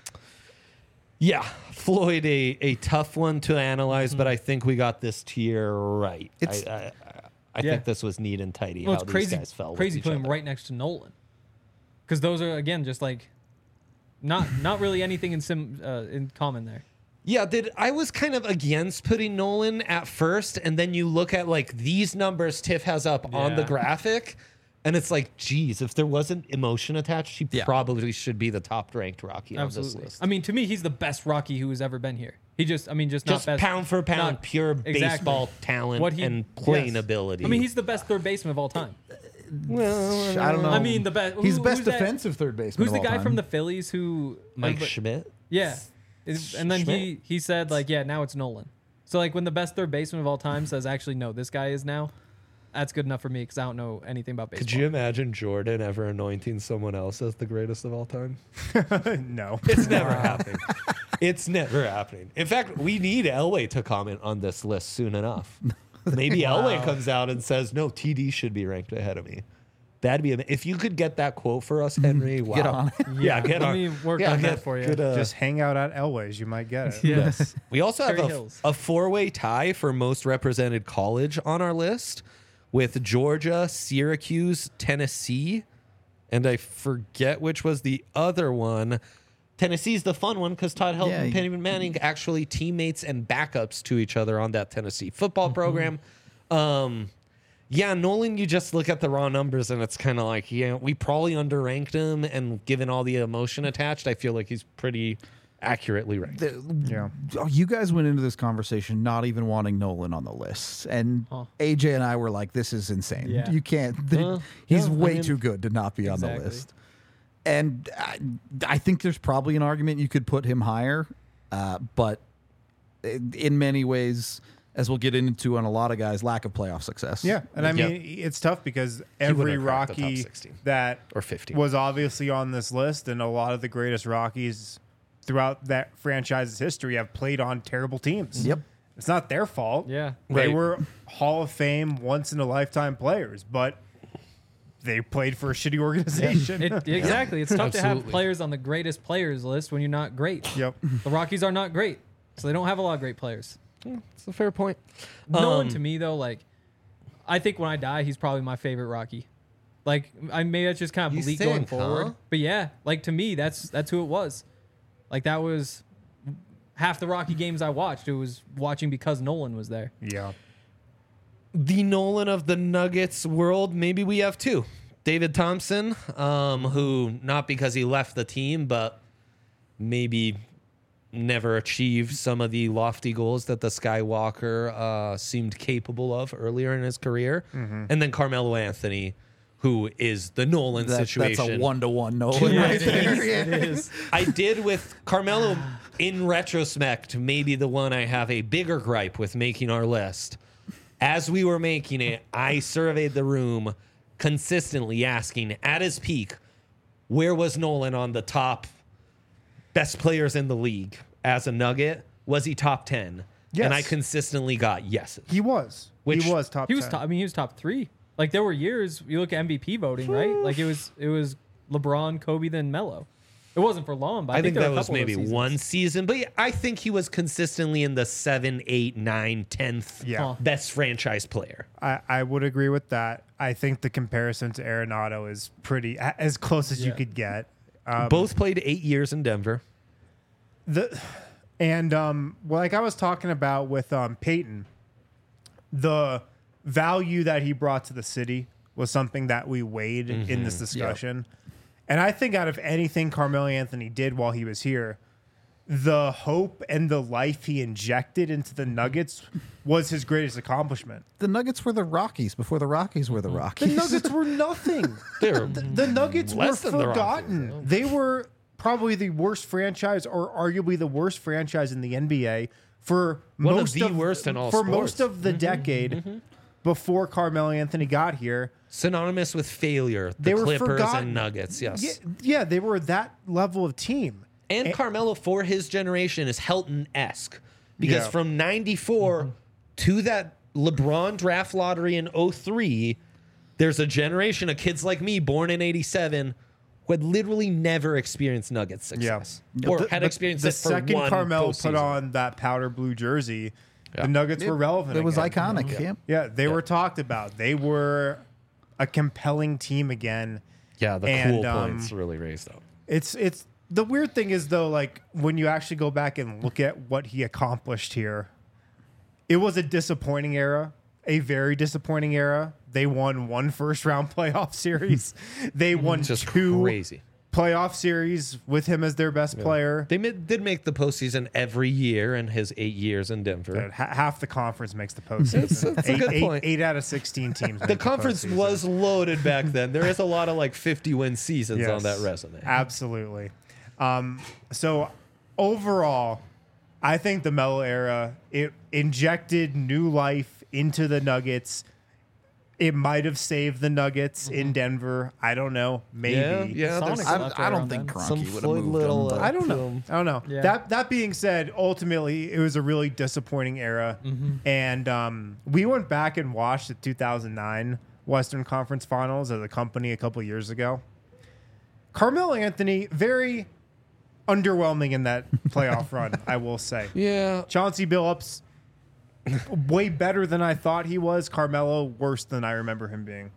S1: yeah, Floyd, a, a tough one to analyze, but I think we got this tier right.
S2: It's-
S1: I, I, I
S4: Yeah.
S1: think this was neat and tidy
S4: Well,
S1: how
S4: it's
S1: these
S4: crazy.
S1: guys fell. with
S4: Crazy
S1: each
S4: putting him
S1: other.
S4: right next to Nolan, because those are again just like not not really anything in sim uh, in common there.
S1: Yeah, did I was kind of against putting Nolan at first, and then you look at like these numbers Tiff has up on the
S4: Yeah.
S1: graphic, and it's like, geez, if there wasn't emotion attached, he
S2: Yeah.
S1: probably should be the top ranked Rocky on
S4: Absolutely.
S1: this list.
S4: I mean, to me, he's the best Rocky who has ever been here. He just, I mean, just,
S1: Just
S4: not best,
S1: pound for pound,
S4: not-
S1: pure
S4: exactly.
S1: baseball talent
S4: What he-
S1: and playing
S4: yes.
S1: ability.
S4: I mean, he's the best third baseman of all time.
S1: well,
S2: I don't know.
S4: I mean, the best.
S2: He's
S4: who-
S2: best
S4: who's that-
S2: defensive third baseman.
S4: Who's
S2: of
S4: the
S2: all
S4: guy
S2: time.
S4: from the Phillies who?
S1: Mike
S4: everybody-
S1: Schmidt.
S4: Yeah, Is- and then he he said like, yeah, now it's Nolan. So like when the best third baseman of all time says, actually, no, this guy is now. That's good enough for me because I don't know anything about baseball.
S1: Could you imagine Jordan ever anointing someone else as the greatest of all time?
S3: No.
S1: It's never happening. It's never happening. In fact, we need Elway to comment on this list soon enough. Maybe Elway comes out and says, "No, T D should be ranked ahead of me." That'd be ama- if you could get that quote for us, Henry. Wow.
S2: Get on it.
S1: Yeah, get
S4: let
S1: on.
S4: me work
S1: yeah,
S4: on that
S1: get-
S4: for you.
S1: get, uh,
S3: Just hang out at Elway's. You might get it.
S4: Yes.
S1: We also have
S4: Cherry
S1: a,
S4: Hills.
S1: a four-way tie for most represented college on our list with Georgia, Syracuse, Tennessee, and I forget which was the other one. Tennessee's the fun one because Todd Helton
S2: Yeah,
S1: and
S2: you-
S1: Peyton Manning actually teammates and backups to each other on that Tennessee football program. Um, yeah, Nolan, you just look at the raw numbers and it's kind of like, yeah, we probably underranked him, and given all the emotion attached, I feel like he's pretty accurately ranked.
S2: The-
S3: Yeah.
S2: Oh, you guys went into this conversation not even wanting Nolan on the list, and
S4: Huh.
S2: A J and I were like, "This is insane.
S4: Yeah.
S2: You can't.
S1: Uh,
S2: he's
S1: yeah, I
S2: way
S1: mean-
S2: too good to not be on the
S4: Exactly.
S2: list." And I, I think there's probably an argument you could put him higher, uh, but in in many ways, as we'll get into on a lot of guys, lack of playoff success.
S3: Yeah, and I
S1: Yep.
S3: mean it's tough because every
S1: wouldn't have cracked the top
S3: Rocky
S1: sixteen.
S3: that
S1: Or fifteen.
S3: was obviously on this list, and a lot of the greatest Rockies throughout that franchise's history have played on terrible teams.
S2: Yep.
S3: It's not their fault.
S4: Yeah.
S3: They
S1: Right.
S3: were Hall of Fame, once in a lifetime players, but they played for a shitty organization.
S4: It, exactly. It's tough to have
S1: Absolutely.
S4: players on the greatest players list when you're not great.
S3: Yep.
S4: The Rockies are not great, so they don't have a lot of great players.
S1: It's a fair point.
S4: Nolan
S1: Um,
S4: to me though, like I think when I die, he's probably my favorite Rocky. Like I maybe that's just kind of
S1: You
S4: bleak going
S1: think,
S4: forward.
S1: huh?
S4: But yeah, like to me, that's that's who it was. Like that was half the Rocky games I watched. It was watching because Nolan was there.
S3: Yeah.
S1: The Nolan of the Nuggets world, maybe we have two. David Thompson, um, who not because he left the team, but maybe never achieved some of the lofty goals that the Skywalker uh, seemed capable of earlier in his career.
S3: Mm-hmm.
S1: And then Carmelo Anthony, who is the Nolan
S2: That,
S1: situation.
S2: that's a one to one Nolan
S1: Yeah,
S2: right
S1: it
S2: there.
S1: is.
S2: Yeah.
S4: It is.
S1: I did with Carmelo, in retrospect, maybe the one I have a bigger gripe with making our list. As we were making it, I surveyed the room consistently asking, at his peak, where was Nolan on the top best players in the league as a Nugget? Was he top ten?
S3: Yes.
S1: And I consistently got yeses.
S3: He was.
S1: Which-
S3: he was top
S4: He was
S3: ten.
S4: top. I mean, he was top three. Like there were years you look at M V P voting, right? Like it was it was LeBron, Kobe, then Melo. It wasn't for long, but I,
S1: I think
S4: there
S1: that
S4: were a
S1: was
S4: couple of
S1: maybe
S4: those seasons.
S1: one season, but yeah, I think he was consistently in the seven, eight, nine, tenth
S3: Yeah.
S4: Huh.
S1: best franchise player.
S3: I, I would agree with that. I think the comparison to Arenado is pretty a- as close as you
S4: Yeah.
S3: could get. Um,
S1: Both played eight years in Denver.
S3: the and um, well, like I was talking about with um, Peyton, the value that he brought to the city was something that we weighed in this discussion. And I think out of anything Carmelo Anthony did while he was here, the hope and the life he injected into the Nuggets was his greatest accomplishment.
S2: The Nuggets were the Rockies before the Rockies were the
S3: The
S2: Rockies.
S3: Nuggets were nothing.
S1: They're
S3: The, the Nuggets were
S1: Less than the
S3: forgotten.
S1: Rockets,
S3: They were probably the worst franchise, or arguably the worst franchise in the N B A for
S1: One of
S3: most
S1: the worst in all
S3: for
S1: sports.
S3: most of the decade before Carmelo Anthony got here.
S1: synonymous with failure. The
S3: They were
S1: Clippers
S3: forgotten.
S1: and Nuggets, yes.
S3: Yeah, yeah, they were that level of team.
S1: And Carmelo, for his generation, is Helton-esque. Because
S3: Yeah.
S1: from ninety-four to that LeBron draft lottery in oh three, there's a generation of kids like me, born in eighty-seven, who had literally never experienced Nuggets success.
S3: Yeah.
S1: Or
S3: The-
S1: had
S3: the-
S1: experienced
S3: the
S1: it for
S3: second
S1: one
S3: Carmelo
S1: postseason.
S3: put on that powder blue jersey,
S1: Yeah.
S3: the Nuggets
S2: It-
S3: were relevant.
S2: It was
S3: again.
S2: iconic.
S1: Yeah.
S2: Yeah.
S3: Yeah, they were talked about. They were a compelling team again.
S1: Yeah, the
S3: And,
S1: cool
S3: um,
S1: points really raised up.
S3: It's it's the weird thing is though, like when you actually go back and look at what he accomplished here, it was a disappointing era, a very disappointing era. They won one first round playoff series. They won
S1: Just
S3: two
S1: crazy.
S3: playoff series with him as their best player.
S1: They mid, did make the postseason every year in his eight years in Denver.
S3: Dude, ha- half the conference makes the postseason.
S1: That's a
S3: eight,
S1: good
S3: eight-
S1: point.
S3: eight out of sixteen teams.
S1: The conference was loaded back then. There is a lot of like fifty win seasons on that resume.
S3: Absolutely. Um, so overall, I think the Melo era, it injected new life into the Nuggets. It might have saved the Nuggets in Denver. I don't know. Maybe.
S1: Yeah, yeah.
S4: Sonics
S1: there's
S2: I,
S4: left
S2: I
S4: right
S2: don't
S4: around
S2: think
S4: then.
S1: some
S2: Kroenke would have
S1: Floyd
S2: moved
S1: Little,
S2: him.
S1: uh,
S2: but-
S3: I don't know.
S1: film.
S3: I don't know.
S4: Yeah.
S3: That that being said, ultimately it was a really disappointing era, and um, we went back and watched the two thousand nine Western Conference Finals as a company a couple years ago. Carmelo Anthony, very underwhelming in that playoff run, I will say.
S1: Yeah.
S3: Chauncey Billups, way better than I thought he was. Carmelo, worse than I remember him being.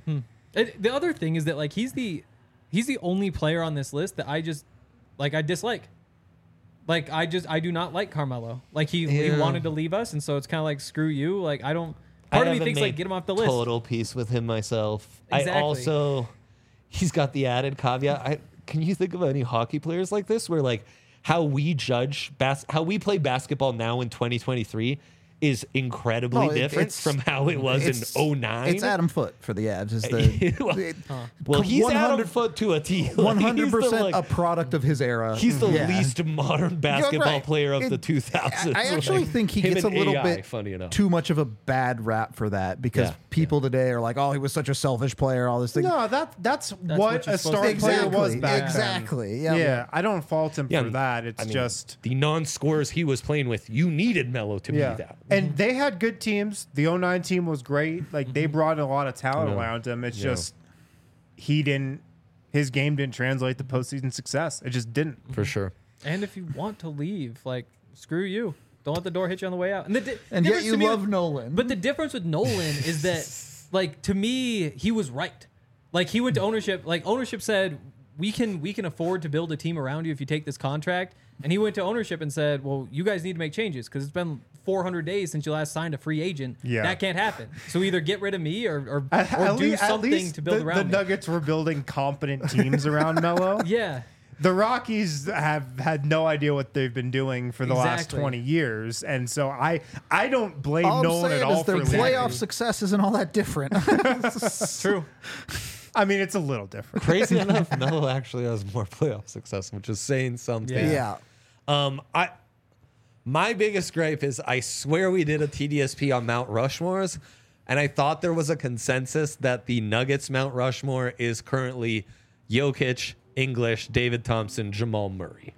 S4: It, the other thing is that like he's the he's the only player on this list that I just like I dislike. Like I just I do not like Carmelo. Like he,
S1: Yeah.
S4: he wanted to leave us, and so it's kind of like screw you. Like I don't. Part of me thinks like get him off the list.
S1: Total peace with him myself. I
S4: Exactly.
S1: also, he's got the added caveat. I, can you think of any hockey players like this where like how we judge bas- how we play basketball now in twenty twenty-three is incredibly
S2: No, it-
S1: different
S2: it's-
S1: from how it was
S2: It's-
S1: in oh nine.
S2: It's Adam Foote for the Avs. Is the
S1: Well,
S2: it-
S1: well, he's
S2: one
S1: Adam
S2: hundred
S1: Foote to a T. Like,
S2: one hundred
S1: he's the,
S2: percent
S1: like-
S2: a product of his era.
S1: He's the
S2: Yeah.
S1: least modern
S2: You're
S1: basketball
S2: right.
S1: player of
S2: It-
S1: the two thousands.
S2: I I actually
S1: Like,
S2: think he
S1: him
S2: gets a
S1: and
S2: little
S1: A I,
S2: bit
S1: funny enough.
S2: too much of a bad rap for that because
S1: Yeah,
S2: people today are like, "Oh, he was such a selfish player." All this thing.
S3: No, that that's,
S4: what
S3: what
S4: you're
S3: a
S4: supposed
S3: star
S4: to do.
S3: player
S2: Exactly,
S3: was back
S2: exactly,
S3: then.
S2: yeah.
S3: yeah. I don't fault him
S1: Yeah,
S3: for that. It's
S1: I mean,
S3: just
S1: the non-scorers he was playing with. You needed Melo to
S3: yeah.
S1: be that.
S3: And they had good teams. The oh nine team was great. Like they brought a lot of talent
S1: Yeah.
S3: around him. It's
S1: Yeah.
S3: just he didn't. His game didn't translate to postseason success. It just didn't.
S1: For sure.
S4: And if you want to leave, like screw you. Don't let the door hit you on the way out. And, the di-
S2: And yet
S4: difference
S2: you
S4: to me
S2: love
S4: with-
S2: Nolan.
S4: But the difference with Nolan is that, like, to me, he was right. Like, he went to ownership. Like, ownership said, we can we can afford to build a team around you if you take this contract. And he went to ownership and said, well, you guys need to make changes because it's been four hundred days since you last signed a free agent.
S3: Yeah.
S4: That can't happen. So either get rid of me or, or,
S3: At,
S4: or
S3: at
S4: do
S3: lea- at
S4: something
S3: least
S4: to build
S3: the,
S4: around
S3: the
S4: me.
S3: Nuggets were building competent teams around Melo.
S4: Yeah.
S3: The Rockies have had no idea what they've been doing for the last
S4: Exactly.
S3: twenty years, and so I I don't blame
S2: all I'm
S3: Nolan
S2: saying
S3: at all
S2: is their
S3: for leaving.
S2: playoff success isn't all that different.
S4: True.
S3: I mean, it's a little different.
S1: Crazy enough, Melo actually has more playoff success, which is saying something.
S2: yeah.
S1: Um, I my biggest gripe is I swear we did a T D S P on Mount Rushmore's, and I thought there was a consensus that the Nuggets Mount Rushmore is currently Jokic, English, David Thompson, Jamal Murray.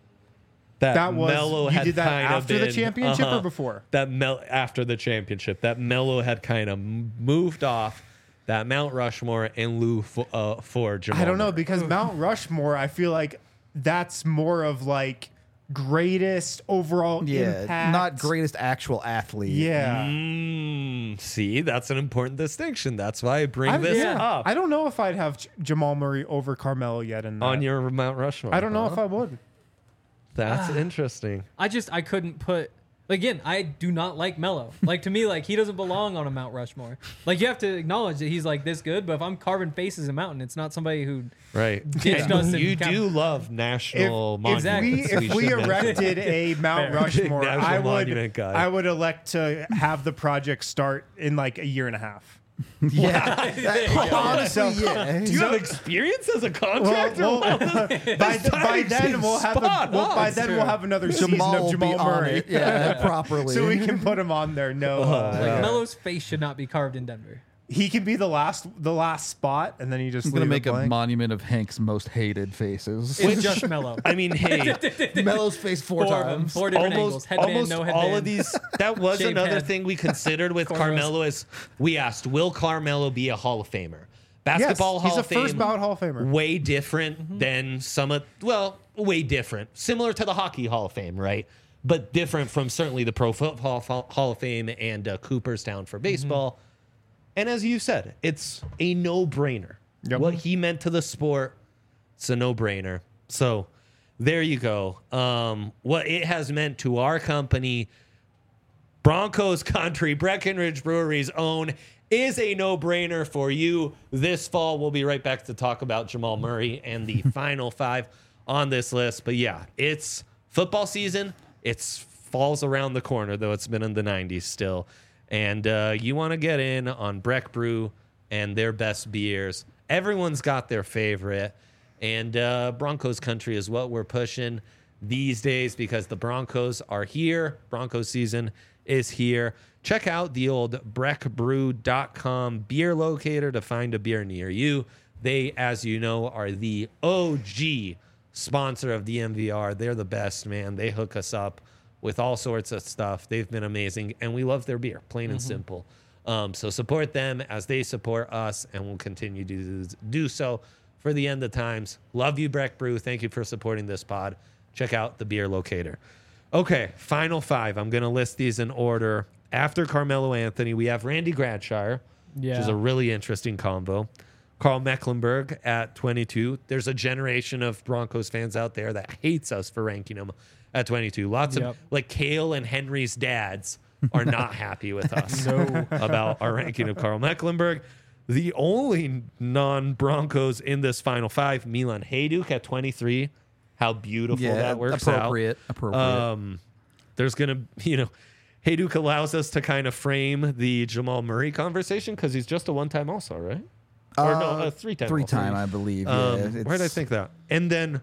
S3: That was-
S1: Melo
S3: you
S1: had
S3: did that
S1: kind of
S3: after the
S1: been-
S3: championship or
S1: uh-huh,
S3: before?
S1: That Mel after the championship, that Melo had kind of moved off that Mount Rushmore in lieu for, uh, for Jamal.
S3: I don't know
S1: Murray.
S3: because Mount Rushmore, I feel like that's more of like greatest overall
S2: Yeah.
S3: impact.
S2: Not greatest actual athlete.
S3: Yeah.
S1: Mm, see, that's an important distinction. That's why I bring
S3: I,
S1: this
S3: yeah.
S1: up
S3: I don't know if I'd have J- Jamal Murray over Carmelo yet in that.
S1: on your Mount Rushmore.
S3: I don't know
S1: huh?
S3: if I would.
S1: That's interesting.
S4: I just I couldn't put again. I do not like Melo. Like to me, like he doesn't belong on a Mount Rushmore. Like you have to acknowledge that he's like this good, but if I'm carving faces in mountain, it's not somebody who
S1: Right.
S4: ditched
S1: And
S4: us.
S1: you
S4: and
S1: do love national
S3: If, if
S1: monuments.
S3: we if we
S1: should mention.
S3: erected a Mount
S4: Fair.
S3: Rushmore,
S1: National
S3: I would
S1: monument guy.
S3: I would elect to have the project start in like a year and a half.
S2: Yeah. That- honestly, yeah.
S1: Do you have experience as a contractor?
S3: Well, well, by, by
S1: timing
S3: then
S1: seems
S3: we'll have a,
S1: spot
S3: well,
S1: on.
S3: by then we'll have another season
S2: Jamal
S3: of
S2: will
S3: Jamal
S2: be on
S3: Murray.
S2: it, yeah, properly.
S3: So we can put him on there. No, uh,
S4: like Melo's face should not be carved in Denver.
S3: he can be the last the last spot, and then he just
S2: I'm gonna
S3: leave
S2: make
S3: it
S2: a
S3: blank.
S2: monument of Hank's most hated faces.
S4: It's just Melo.
S1: I mean, hey,
S2: Melo's face four,
S4: Four of them,
S2: times.
S4: four different angles.
S1: almost,
S4: Headband,
S1: almost
S4: no headband.
S1: all of these. That was
S4: Shaved
S1: another
S4: head.
S1: thing we considered with
S4: Cornrows.
S1: Carmelo is we asked, will Carmelo be a Hall of Famer?
S3: Yes,
S1: Basketball
S3: he's
S1: Hall
S3: a
S1: of Fame.
S3: first ballot Hall of Famer.
S1: Way different
S4: Mm-hmm.
S1: than some of, well, way different. Similar to the Hockey Hall of Fame, right? But different from certainly the Pro Football Hall of Fame and uh, Cooperstown for baseball.
S4: Mm-hmm.
S1: And as you said, it's a no-brainer.
S3: Yep.
S1: What he meant to the sport, it's a no-brainer. So there you go. Um, what it has meant to our company, Broncos Country, Breckenridge Brewery's own, is a no-brainer for you. This fall, we'll be right back to talk about Jamal Murray and the final five on this list. But yeah, it's football season. It's falls around the corner, though it's been in the nineties still. And uh, you want to get in on Breck Brew and their best beers. Everyone's got their favorite. And uh, Broncos Country is what we're pushing these days because the Broncos are here. Broncos season is here. Check out the old breck brew dot com beer locator to find a beer near you. They, as you know, are the O G sponsor of the M V R. They're the best, man. They hook us up with all sorts of stuff. They've been amazing, and we love their beer, plain and simple. Um, so support them as they support us, and we'll continue to do so for the end of times. Love you, Breck Brew. Thank you for supporting this pod. Check out the beer locator. Okay, final five. I'm going to list these in order. After Carmelo Anthony, we have Randy Gradshire, which is
S4: Yeah.
S1: a really interesting combo. Carl Mecklenburg at twenty-two. There's a generation of Broncos fans out there that hates us for ranking him at twenty-two. Lots
S4: Yep.
S1: of, like, Kale and Henry's dads are not happy with us
S4: No.
S1: about our ranking of Carl Mecklenburg. The only non-Broncos in this final five, Milan Hajduk at twenty-three. How beautiful
S2: Yeah,
S1: that works
S2: appropriate,
S1: out.
S2: appropriate.
S1: Um, there's going to, you know, Hajduk allows us to kind of frame the Jamal Murray conversation because he's just a one-time All-Star, right? Or no,
S2: Uh,
S1: a three-time
S2: Three-time,
S1: All-Star.
S2: I believe.
S1: Um,
S2: yeah,
S1: where did I
S2: it's-
S1: think that? And then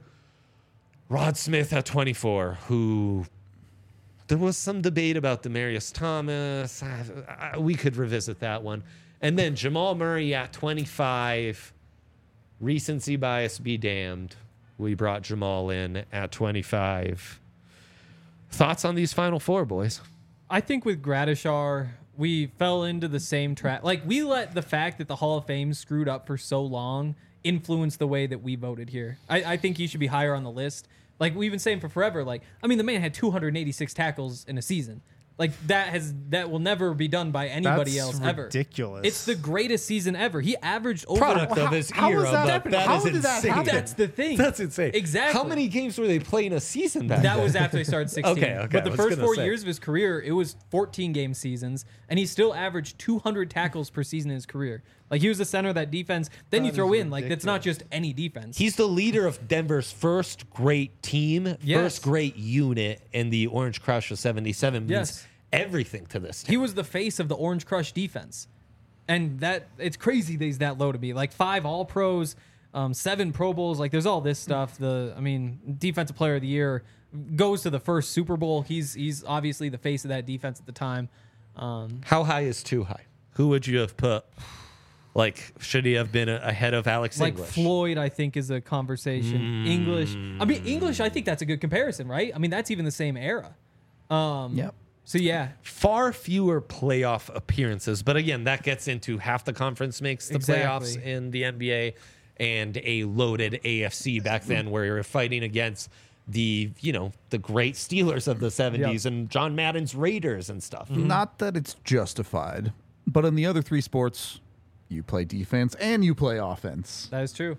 S1: Rod Smith at twenty-four, who there was some debate about Demarius Thomas. I, I, we could revisit that one. And then Jamal Murray at twenty-five. Recency bias be damned. We brought Jamal in at twenty-five. Thoughts on these final four, boys?
S4: I think with Gradishar, we fell into the same trap. Like, we let the fact that the Hall of Fame screwed up for so long influence the way that we voted here. I, I think he should be higher on the list, Like we've been saying for forever. Like I mean, the man had two hundred eighty-six tackles in a season. Like that has that will never be done by anybody
S3: That's
S4: else ever.
S3: ridiculous.
S4: It's the greatest season ever. He averaged over.
S1: Product of his
S3: how
S1: era,
S3: was that-
S1: but that
S3: how
S1: is
S3: did that
S1: insane.
S3: happen?
S4: That's the thing.
S1: That's insane.
S4: Exactly.
S1: How many games were they playing a season back
S4: That
S1: then?
S4: was after they started sixteen.
S1: Okay, okay,
S4: But
S1: I
S4: the
S1: was
S4: first
S1: gonna
S4: four
S1: say.
S4: years of his career, it was fourteen game seasons, and he still averaged two hundred tackles per season in his career. Like he was the center of that defense. Then
S3: That
S4: you throw
S3: is
S4: in like that's not just any defense.
S1: He's the leader of Denver's first great team,
S4: Yes.
S1: first great unit, and the Orange Crush of seventy-seven means
S4: Yes.
S1: everything to this team.
S4: He was the face of the Orange Crush defense, and that it's crazy that he's that low to be like five All Pros, um, seven Pro Bowls. Like there's all this stuff. The I mean, Defensive Player of the Year goes to the first Super Bowl. He's he's obviously the face of that defense at the time. Um,
S1: How high is too high? Who would you have put? Like, should he have been a- ahead of Alex
S4: like
S1: English?
S4: Floyd, I think is a conversation. English, I mean English. I think that's a good comparison, right? I mean that's even the same era. Um,
S2: Yep.
S4: So yeah,
S1: Far fewer playoff appearances, but again, that gets into half the conference makes the playoffs
S4: Exactly.
S1: in the N B A, and a loaded A F C back then, where you're fighting against the you know the great Steelers of the seventies and John Madden's Raiders and stuff.
S2: Not that it's justified, but in the other three sports, you play defense and you play offense.
S4: that is true.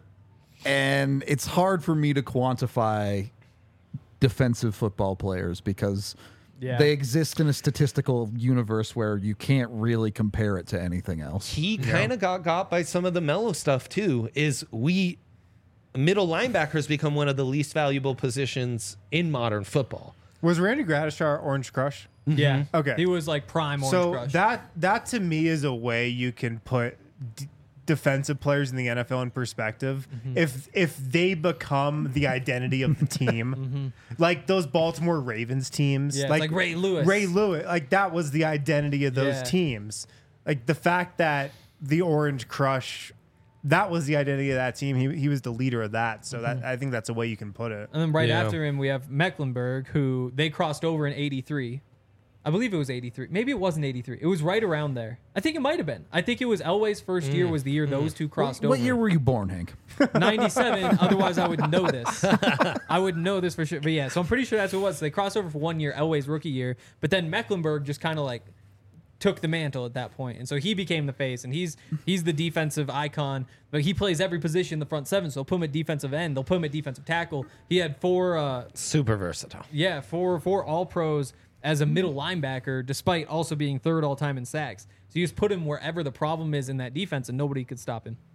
S2: And it's hard for me to quantify defensive football players because
S4: Yeah.
S2: they exist in a statistical universe where you can't really compare it to anything else.
S1: He kind of got got by some of the mellow stuff too. Is we middle linebackers become one of the least valuable positions in modern football.
S3: Was Randy Gradishar Orange Crush?
S4: Yeah.
S3: Okay.
S4: He was like prime Orange
S3: So
S4: Crush.
S3: that that to me is a way you can put d- defensive players in the N F L in perspective.
S4: Mm-hmm.
S3: If if they become the identity of the team, like those Baltimore Ravens teams,
S4: Mm-hmm. Yeah, like Ray Lewis.
S3: Ray Lewis, like that was the identity of those
S4: Yeah.
S3: teams. Like the fact that the Orange Crush, that was the identity of that team. He he was the leader of that. So
S4: Mm-hmm.
S3: that I think that's a way you can put it.
S4: And then right
S1: Yeah.
S4: after him, we have Mecklenburg, who they crossed over in eighty-three. I believe it was eighty-three. Maybe it wasn't eighty-three. It was right around there. I think it might have been. I think it was Elway's first year was the year those two crossed
S2: What
S4: over.
S2: year were you born, Hank?
S4: ninety-seven. Otherwise, I would know this. I would know this for sure. But yeah, so I'm pretty sure that's what it was. They crossed over for one year, Elway's rookie year. But then Mecklenburg just kind of like took the mantle at that point, and so he became the face, and he's he's the defensive icon. But he plays every position in the front seven, so they'll put him at defensive end. They'll put him at defensive tackle. He had four. Uh,
S1: Super versatile.
S4: Yeah, four four all pros as a middle linebacker, despite also being third all time in sacks. So you just put him wherever the problem is in that defense, and nobody could stop him.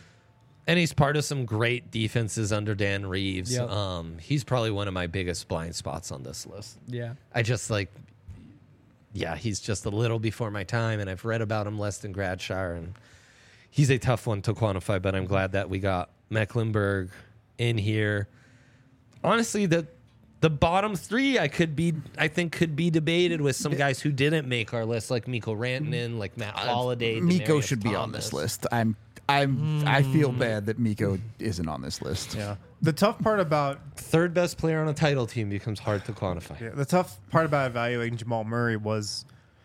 S1: And he's part of some great defenses under Dan Reeves.
S4: Yep.
S1: Um, he's probably one of my biggest blind spots on this list.
S4: Yeah.
S1: I just like, yeah, he's just a little before my time, and I've read about him less than Gradshire, and he's a tough one to quantify, but I'm glad that we got Mecklenburg in here. Honestly, the the bottom three I could be I think could be debated with some guys who didn't make our list, like Miko Rantanen, like Matt Holliday.
S2: Miko
S1: Demaryius
S2: should be on
S1: Thomas.
S2: this list. I'm I'm I feel bad that Miko isn't on this list.
S3: Yeah. The tough part about
S1: Third best player on a title team becomes hard to quantify.
S3: Yeah, the tough part about evaluating Jamal Murray was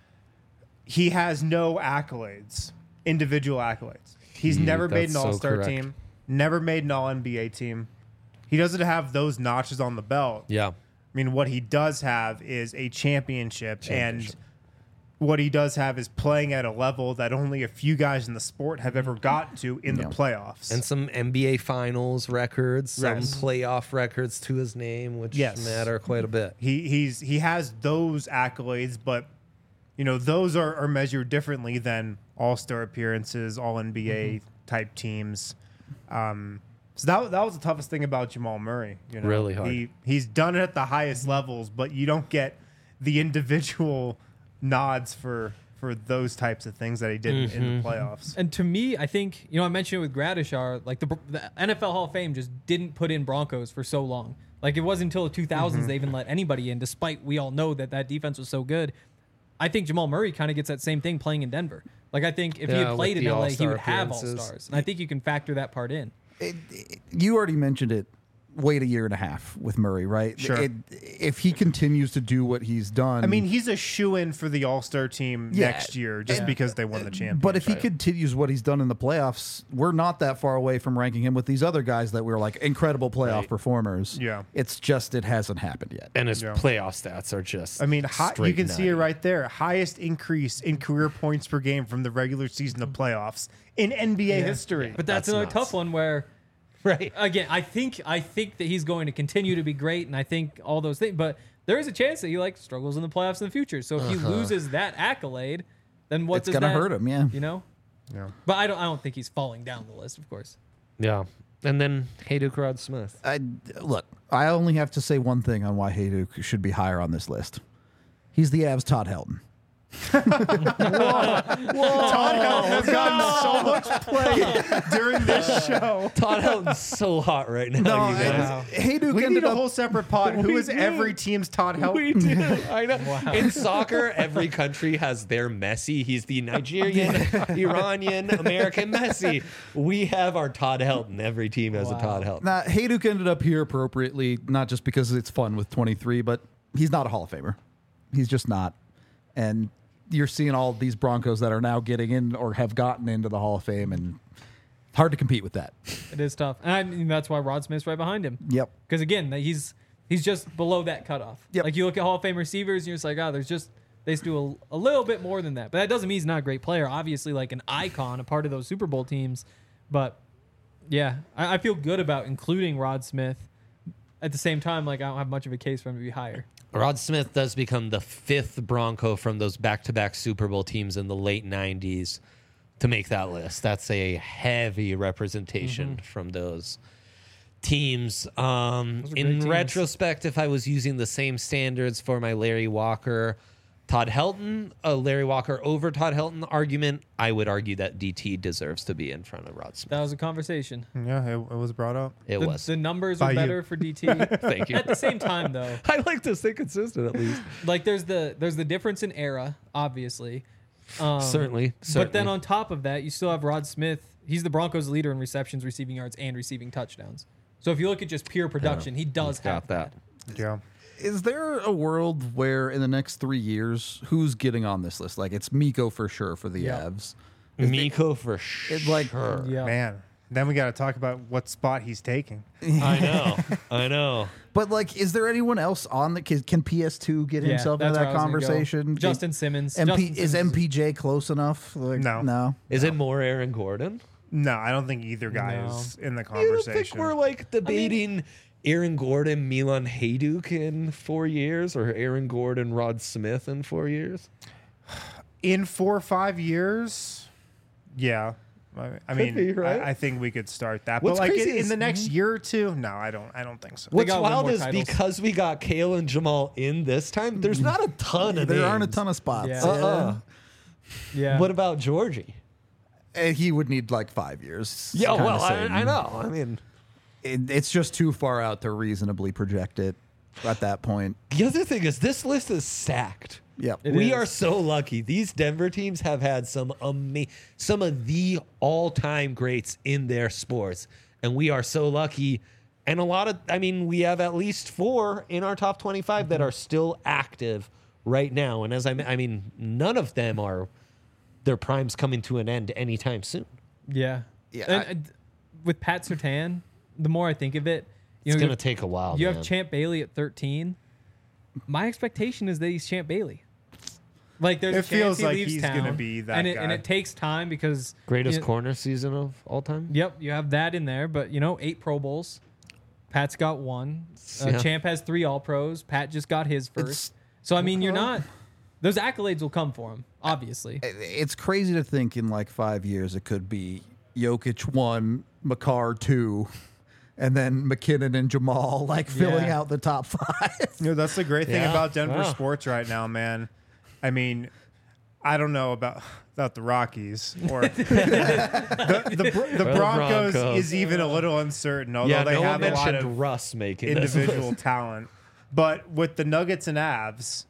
S3: he has no accolades, individual accolades. He's
S1: He-
S3: never made an
S1: that's so
S3: All-Star
S1: correct.
S3: team, never made an All N B A team. He doesn't have those notches on the belt.
S1: Yeah.
S3: I mean, what he does have is a championship,
S1: Championship.
S3: and what he does have is playing at a level that only a few guys in the sport have ever gotten to in
S2: Yeah.
S3: the playoffs.
S1: And some N B A Finals records, some
S3: Yes.
S1: playoff records to his name, which
S3: Yes.
S1: matter quite a bit.
S3: He he's he has those accolades, but you know those are, are measured differently than All Star appearances, All N B A type teams. Um, so that that was the toughest thing about Jamal Murray. You know,
S1: Really hard.
S3: He he's done it at the highest levels, but you don't get the individual nods for for those types of things that he did in
S1: Mm-hmm.
S3: the playoffs.
S4: And to me, I think, you know, I mentioned it with Gradishar, like the, the N F L Hall of Fame just didn't put in Broncos for so long. Like it wasn't until the two thousands
S1: Mm-hmm.
S4: they even let anybody in, despite we all know that that defense was so good. I think Jamal Murray kind of gets that same thing playing in Denver. Like I think if he
S1: Yeah,
S4: had played
S1: with
S4: in
S1: the
S4: L A, he
S1: All-Star
S4: would have
S1: appearances.
S4: All-Stars. And I think you can factor that part in.
S2: It- it- you already mentioned it wait a year and a half with Murray, right?
S3: Sure.
S2: It, if he continues to do what he's done,
S3: I mean, he's a shoo-in for the All-Star team
S2: Yeah.
S3: next year just because they won the championship.
S2: but if he continues what he's done in the playoffs, we're not that far away from ranking him with these other guys that were like incredible playoff
S1: Right.
S2: performers.
S3: Yeah.
S2: It's just it hasn't happened yet.
S1: And his
S3: Yeah.
S1: playoff stats are just.
S3: I mean, hi, you
S1: straight
S3: can see it
S1: nutty.
S3: right there. Highest increase in career points per game from the regular season to playoffs in N B A history.
S4: But that's,
S1: That's
S4: another
S1: nuts.
S4: tough one where
S1: Right.
S4: again, I think I think that he's going to continue to be great, and I think all those things. But there is a chance that he like struggles in the playoffs in the future. So if he loses that accolade, then what
S2: It's
S4: does
S2: gonna
S4: that
S2: hurt him, yeah.
S4: You know.
S3: Yeah.
S4: But I don't. I don't think he's falling down the list. Of course.
S1: Yeah. And then Hayduk Rod Smith.
S2: I, look, I only have to say one thing on why Hayduk should be higher on this list. He's the Avs' Todd Helton.
S3: Todd Helton has gotten so much play during this show.
S1: Todd Helton's so hot right now, you guys.
S2: Hayduk
S3: We
S2: ended
S3: need a
S2: up
S3: whole separate pod. Who
S1: We
S3: is
S1: do.
S3: every team's Todd Helton?
S1: We do. I know. In soccer, every country has their Messi. He's the Nigerian, Iranian, American Messi. We have our Todd Helton. Every team has
S4: Wow.
S1: a Todd Helton.
S2: Now, Hayduk ended up here appropriately, not just because it's fun with twenty-three, but he's not a Hall of Famer. He's just not. And you're seeing all these Broncos that are now getting in or have gotten into the Hall of Fame, and hard to compete with that.
S4: It is tough, and I mean, that's why Rod Smith's right behind him.
S2: Yep.
S4: Because again, he's he's just below that cutoff.
S2: Yep.
S4: Like you look at Hall of Fame receivers, and you're just like, oh, there's just they just do a, a little bit more than that. But that doesn't mean he's not a great player. Obviously, like an icon, a part of those Super Bowl teams. But yeah, I, I feel good about including Rod Smith. At the same time, like I don't have much of a case for him to be higher.
S1: Rod Smith does become the fifth Bronco from those back-to-back Super Bowl teams in the late nineties to make that list. That's a heavy representation from those teams. Um,
S4: Those are
S1: in
S4: great teams.
S1: retrospect, if I was using the same standards for my Larry Walker, Todd Helton, a Larry Walker over Todd Helton argument, I would argue that D T deserves to be in front of Rod Smith.
S4: That was a conversation.
S3: Yeah, it, it was brought up.
S1: It
S4: the,
S1: was.
S4: the numbers
S3: By
S4: are
S3: you.
S4: better for D T.
S1: Thank you.
S4: At the same time, though,
S1: I like to stay consistent at least.
S4: like there's the there's the difference in era, obviously. Um,
S1: Certainly.
S4: But then
S1: certainly.
S4: on top of that, you still have Rod Smith. He's the Broncos' leader in receptions, receiving yards, and receiving touchdowns. So if you look at just pure production, he does
S1: He's
S4: have
S1: got that.
S3: Yeah.
S2: Is there a world where in the next three years, who's getting on this list? Like, it's Miko for sure for the
S4: Yeah.
S2: Avs.
S1: Miko for sure.
S2: It, like-
S4: Yeah.
S3: Man. Then we got to talk about what spot he's taking.
S1: I know. I know.
S2: But, like, is there anyone else on the... Can, can P S two get
S4: Yeah,
S2: himself into
S4: that's where
S2: that
S4: I was gonna go.
S2: conversation?
S4: Justin Simmons.
S2: M P,
S4: Justin
S2: is
S4: Simmons
S2: M P J close enough? Like,
S3: No.
S2: No.
S1: Is it more Aaron Gordon?
S3: No, I don't think either guy
S4: No.
S3: is in the
S1: You don't think
S3: conversation.
S1: we're like debating Aaron Gordon, Milan Hayduk in four years, or Aaron Gordon, Rod Smith in four years?
S3: in four or five years, yeah. I, I mean,
S1: be, right?
S3: I, I think we could start that.
S1: What's
S3: but like in,
S1: crazy
S3: in
S1: is-
S3: the next year or two, no, I don't. I don't think so.
S1: What's
S4: got one
S1: wild
S4: more
S1: is
S4: titles.
S1: because we got Kale and Jamal in this time, there's not a ton of
S2: There aren't a
S1: names.
S2: ton of spots.
S4: Yeah.
S1: Uh-uh.
S4: Yeah.
S1: What about Georgie?
S2: Uh, He would need like five years.
S1: Yeah,
S2: Kinda
S1: well, I,
S2: same.
S1: I know. I mean,
S2: It, it's just too far out to reasonably project it at that point.
S1: the other thing is this list is stacked.
S2: Yep.
S4: It
S1: we
S4: is.
S1: are so lucky. These Denver teams have had some ama- some of the all-time greats in their sports, and we are so lucky. And a lot of, I mean, we have at least four in our top twenty-five that are still active right now. And as I, I mean, none of them are their primes coming to an end anytime soon.
S4: Yeah.
S2: Yeah,
S4: And,
S2: I-
S4: and with Pat Surtain, the more I think of it, you
S1: It's
S4: know,
S1: gonna take a while.
S4: you
S1: man.
S4: have Champ Bailey at thirteen. My expectation is that he's Champ Bailey. Like there's
S3: It
S4: a chance
S3: feels
S4: he
S3: like
S4: leaves
S3: he's
S4: town,
S3: gonna be that
S4: and it, and
S3: guy.
S4: it takes time because
S1: greatest
S4: you know,
S1: corner season of all time.
S4: Yep, you have that in there, but you know, eight Pro Bowls. Pat's got one. Uh,
S1: Yeah.
S4: Champ has three All Pros. Pat just got his first.
S2: It's-
S4: so I mean, you're not. Those accolades will come for him, obviously.
S2: It's crazy to think in like five years it could be Jokic one, McCarr two, and then McKinnon and Jamal like filling
S4: Yeah.
S2: out the top five.
S3: You know, that's the great thing
S1: Yeah.
S3: about Denver
S1: Wow.
S3: sports right now, man. I mean, I don't know about about the Rockies or the the, Br- the
S1: the
S3: Broncos,
S1: Broncos.
S3: is even a little uncertain, although
S1: Yeah,
S3: they
S1: no one
S3: have a lot
S1: mentioned
S3: of
S1: Russ making this
S3: individual
S1: list.
S3: talent. But with the Nuggets and Avs,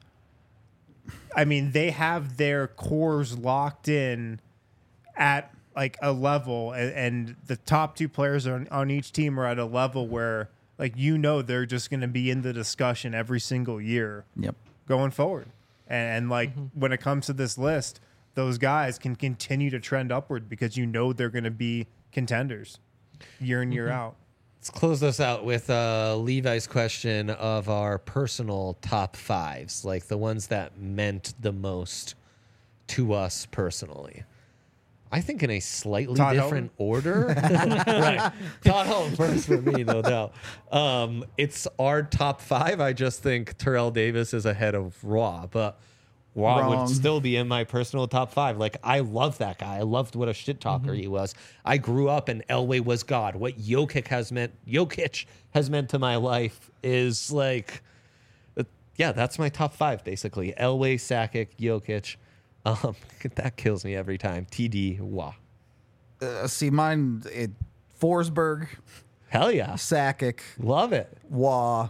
S3: I mean, they have their cores locked in at like a level, and, and the top two players on, on each team are at a level where like, you know, they're just going to be in the discussion every single year
S2: Yep.
S3: going forward. And, and like,
S4: Mm-hmm.
S3: when it comes to this list, those guys can continue to trend upward because you know they're going to be contenders year in, year
S4: Mm-hmm.
S3: out.
S1: Let's close this out with uh, Levi's question of our personal top fives, like the ones that meant the most to us personally. I think in a slightly
S3: Todd
S1: different order. Right. Todd Helton first for me, no doubt. Um, it's our top five. I just think Terrell Davis is ahead of Raw, but Raw
S2: Wrong.
S1: would still be in my personal top five. Like, I love that guy. I loved what a shit talker he was. I grew up and Elway was God. What Jokic has meant, Jokic has meant to my life is like, uh, yeah, that's my top five basically. Elway, Sakic, Jokic. Um, that kills me every time. T D, wah.
S2: Uh, see, mine, it, Forsberg,
S1: Hell yeah.
S2: Sakic,
S1: Love it.
S2: Waugh,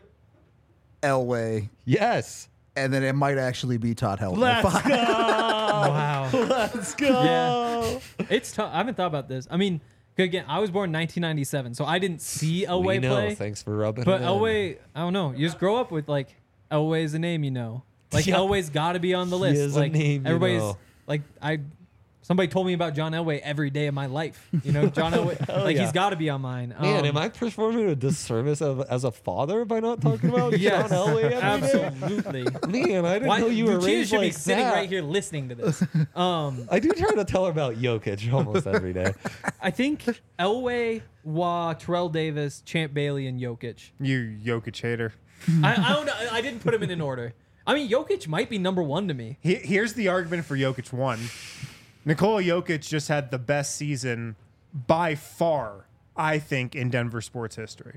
S2: Elway,
S1: Yes.
S2: and then it might actually be Todd Helton.
S1: Let's go.
S4: Wow.
S1: Let's go.
S4: Yeah. It's tough. I haven't thought about this. I mean, again, I was born in nineteen ninety-seven, so I didn't see Elway
S1: We know.
S4: play.
S1: Thanks for rubbing
S4: But
S1: it in.
S4: Elway, I don't know. You just grow up with like Elway is a name you know. Like
S1: Yeah.
S4: Elway's got to be on the
S1: He
S4: list.
S1: is a
S4: like
S1: name you
S4: everybody's
S1: know.
S4: like I. Somebody told me about John Elway every day of my life. You know, John Elway, like
S1: yeah.
S4: he's got to be on mine.
S1: Man,
S4: Um,
S1: am I performing a disservice of, as a father by not talking about
S4: Yes,
S1: John Elway every day?
S4: absolutely.
S1: Man, I didn't
S4: Why,
S1: know you were
S4: Lucia
S1: raised
S4: should
S1: like
S4: be sitting
S1: that.
S4: right here listening to this. Um,
S1: I do try to tell her about Jokic almost every day.
S4: I think Elway, Waugh, Terrell Davis, Champ Bailey, and Jokic.
S3: You Jokic hater.
S4: I, I don't know. I didn't put him in an order. I mean, Jokic might be number one to me.
S3: He- Here's the argument for Jokic one. Nikola Jokic just had the best season by far, I think, in Denver sports history.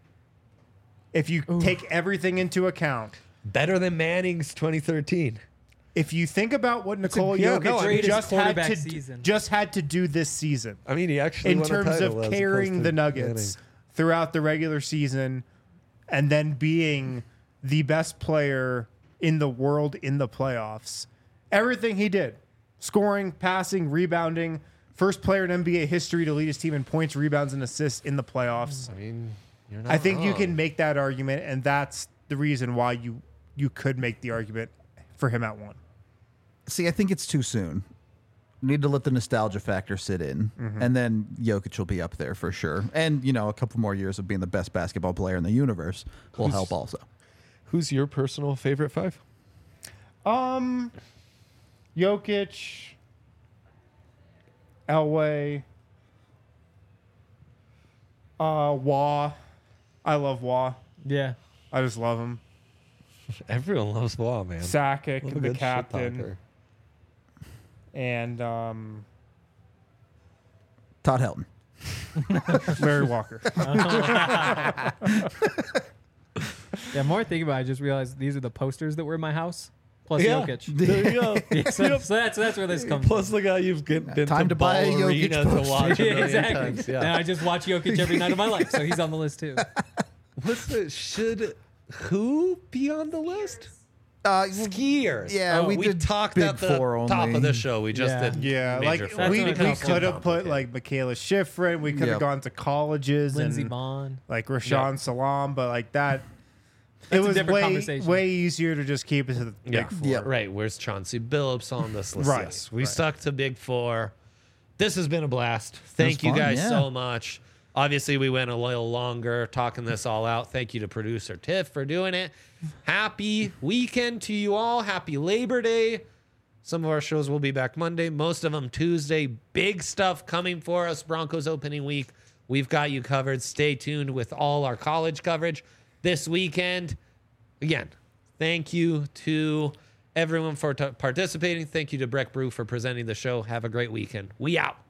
S3: If you take everything into account,
S1: Better than Manning's twenty thirteen.
S3: if you think about what Nikola
S1: yeah,
S3: Jokic
S1: no, I mean-
S4: Greatest
S3: just had
S4: quarterback
S3: to
S4: season.
S3: just had to do this season
S1: I mean, he actually
S3: in
S1: won a
S3: terms
S1: title
S3: of
S1: as opposed
S3: carrying
S1: to
S3: the Nuggets
S1: Manning.
S3: throughout the regular season and then being the best player in the world in the playoffs. Everything he did, scoring, passing, rebounding, first player in N B A history to lead his team in points, rebounds, and assists in the playoffs.
S1: I mean, you're not
S3: I think you
S1: wrong.
S3: can make that argument, and that's the reason why you you could make the argument for him at one.
S2: See, I think it's too soon. Need to let the nostalgia factor sit in, and then Jokic will be up there for sure. And you know, a couple more years of being the best basketball player in the universe will
S1: Who's-
S2: help also.
S1: Who's your personal favorite five?
S3: Um, Jokic, Elway, uh, Waugh. I love Waugh.
S4: Yeah.
S3: I just love him.
S1: Everyone loves Wall, man.
S3: Sakic,
S1: Love a
S3: the
S1: good shit
S3: captain,
S1: talker.
S3: and um,
S2: Todd Helton.
S3: Larry Walker.
S4: Yeah, more I think about it, I just realized these are the posters that were in my house, plus
S1: Yeah.
S4: Jokic.
S1: There you go.
S4: Yeah, so, so that's that's where this comes
S1: Plus the guy you've get, been
S2: Time
S1: to
S2: to buy a
S1: Ball
S2: Jokic
S1: Arena to
S2: poster.
S1: watch a
S4: from.
S1: million
S4: exactly.
S1: times.
S4: And
S1: Yeah.
S4: I just watch Jokic every night of my life, so he's on the list too.
S1: What's the should who be on the list?
S2: Uh,
S1: Skiers.
S2: yeah,
S1: Oh,
S2: we
S1: we
S2: did
S1: talked
S2: Big
S1: at the
S2: Four
S1: top
S2: only.
S1: of the show. We just
S4: Yeah.
S1: did.
S3: Yeah,
S1: major
S3: like
S1: four.
S4: That's
S3: we,
S4: what
S3: we
S4: it comes
S3: could have
S1: to.
S3: put like Michaela Schifrin. We could have
S2: Yep.
S3: gone to colleges
S4: Lindsey
S3: and
S4: Vaughn.
S3: like Rashawn Salam, but like that, it
S4: a
S3: was
S4: different
S3: way
S4: conversation.
S3: way easier to just keep it to the
S1: Yeah.
S3: big four.
S2: Yeah.
S1: Right. Where's Chauncey Billups on this list?
S3: Right,
S1: Yes. We
S3: right.
S1: stuck to Big Four. This has been a blast. Thank you
S2: fun,
S1: guys
S2: yeah.
S1: so much. Obviously, we went a little longer talking this all out. Thank you to producer Tiff for doing it. Happy weekend to you all. Happy Labor Day. Some of our shows will be back Monday, most of them Tuesday. Big stuff coming for us. Broncos opening week. We've got you covered. Stay tuned with all our college coverage this weekend. Again, thank you to everyone for t- participating. Thank you to Breck Brew for presenting the show. Have a great weekend. We out.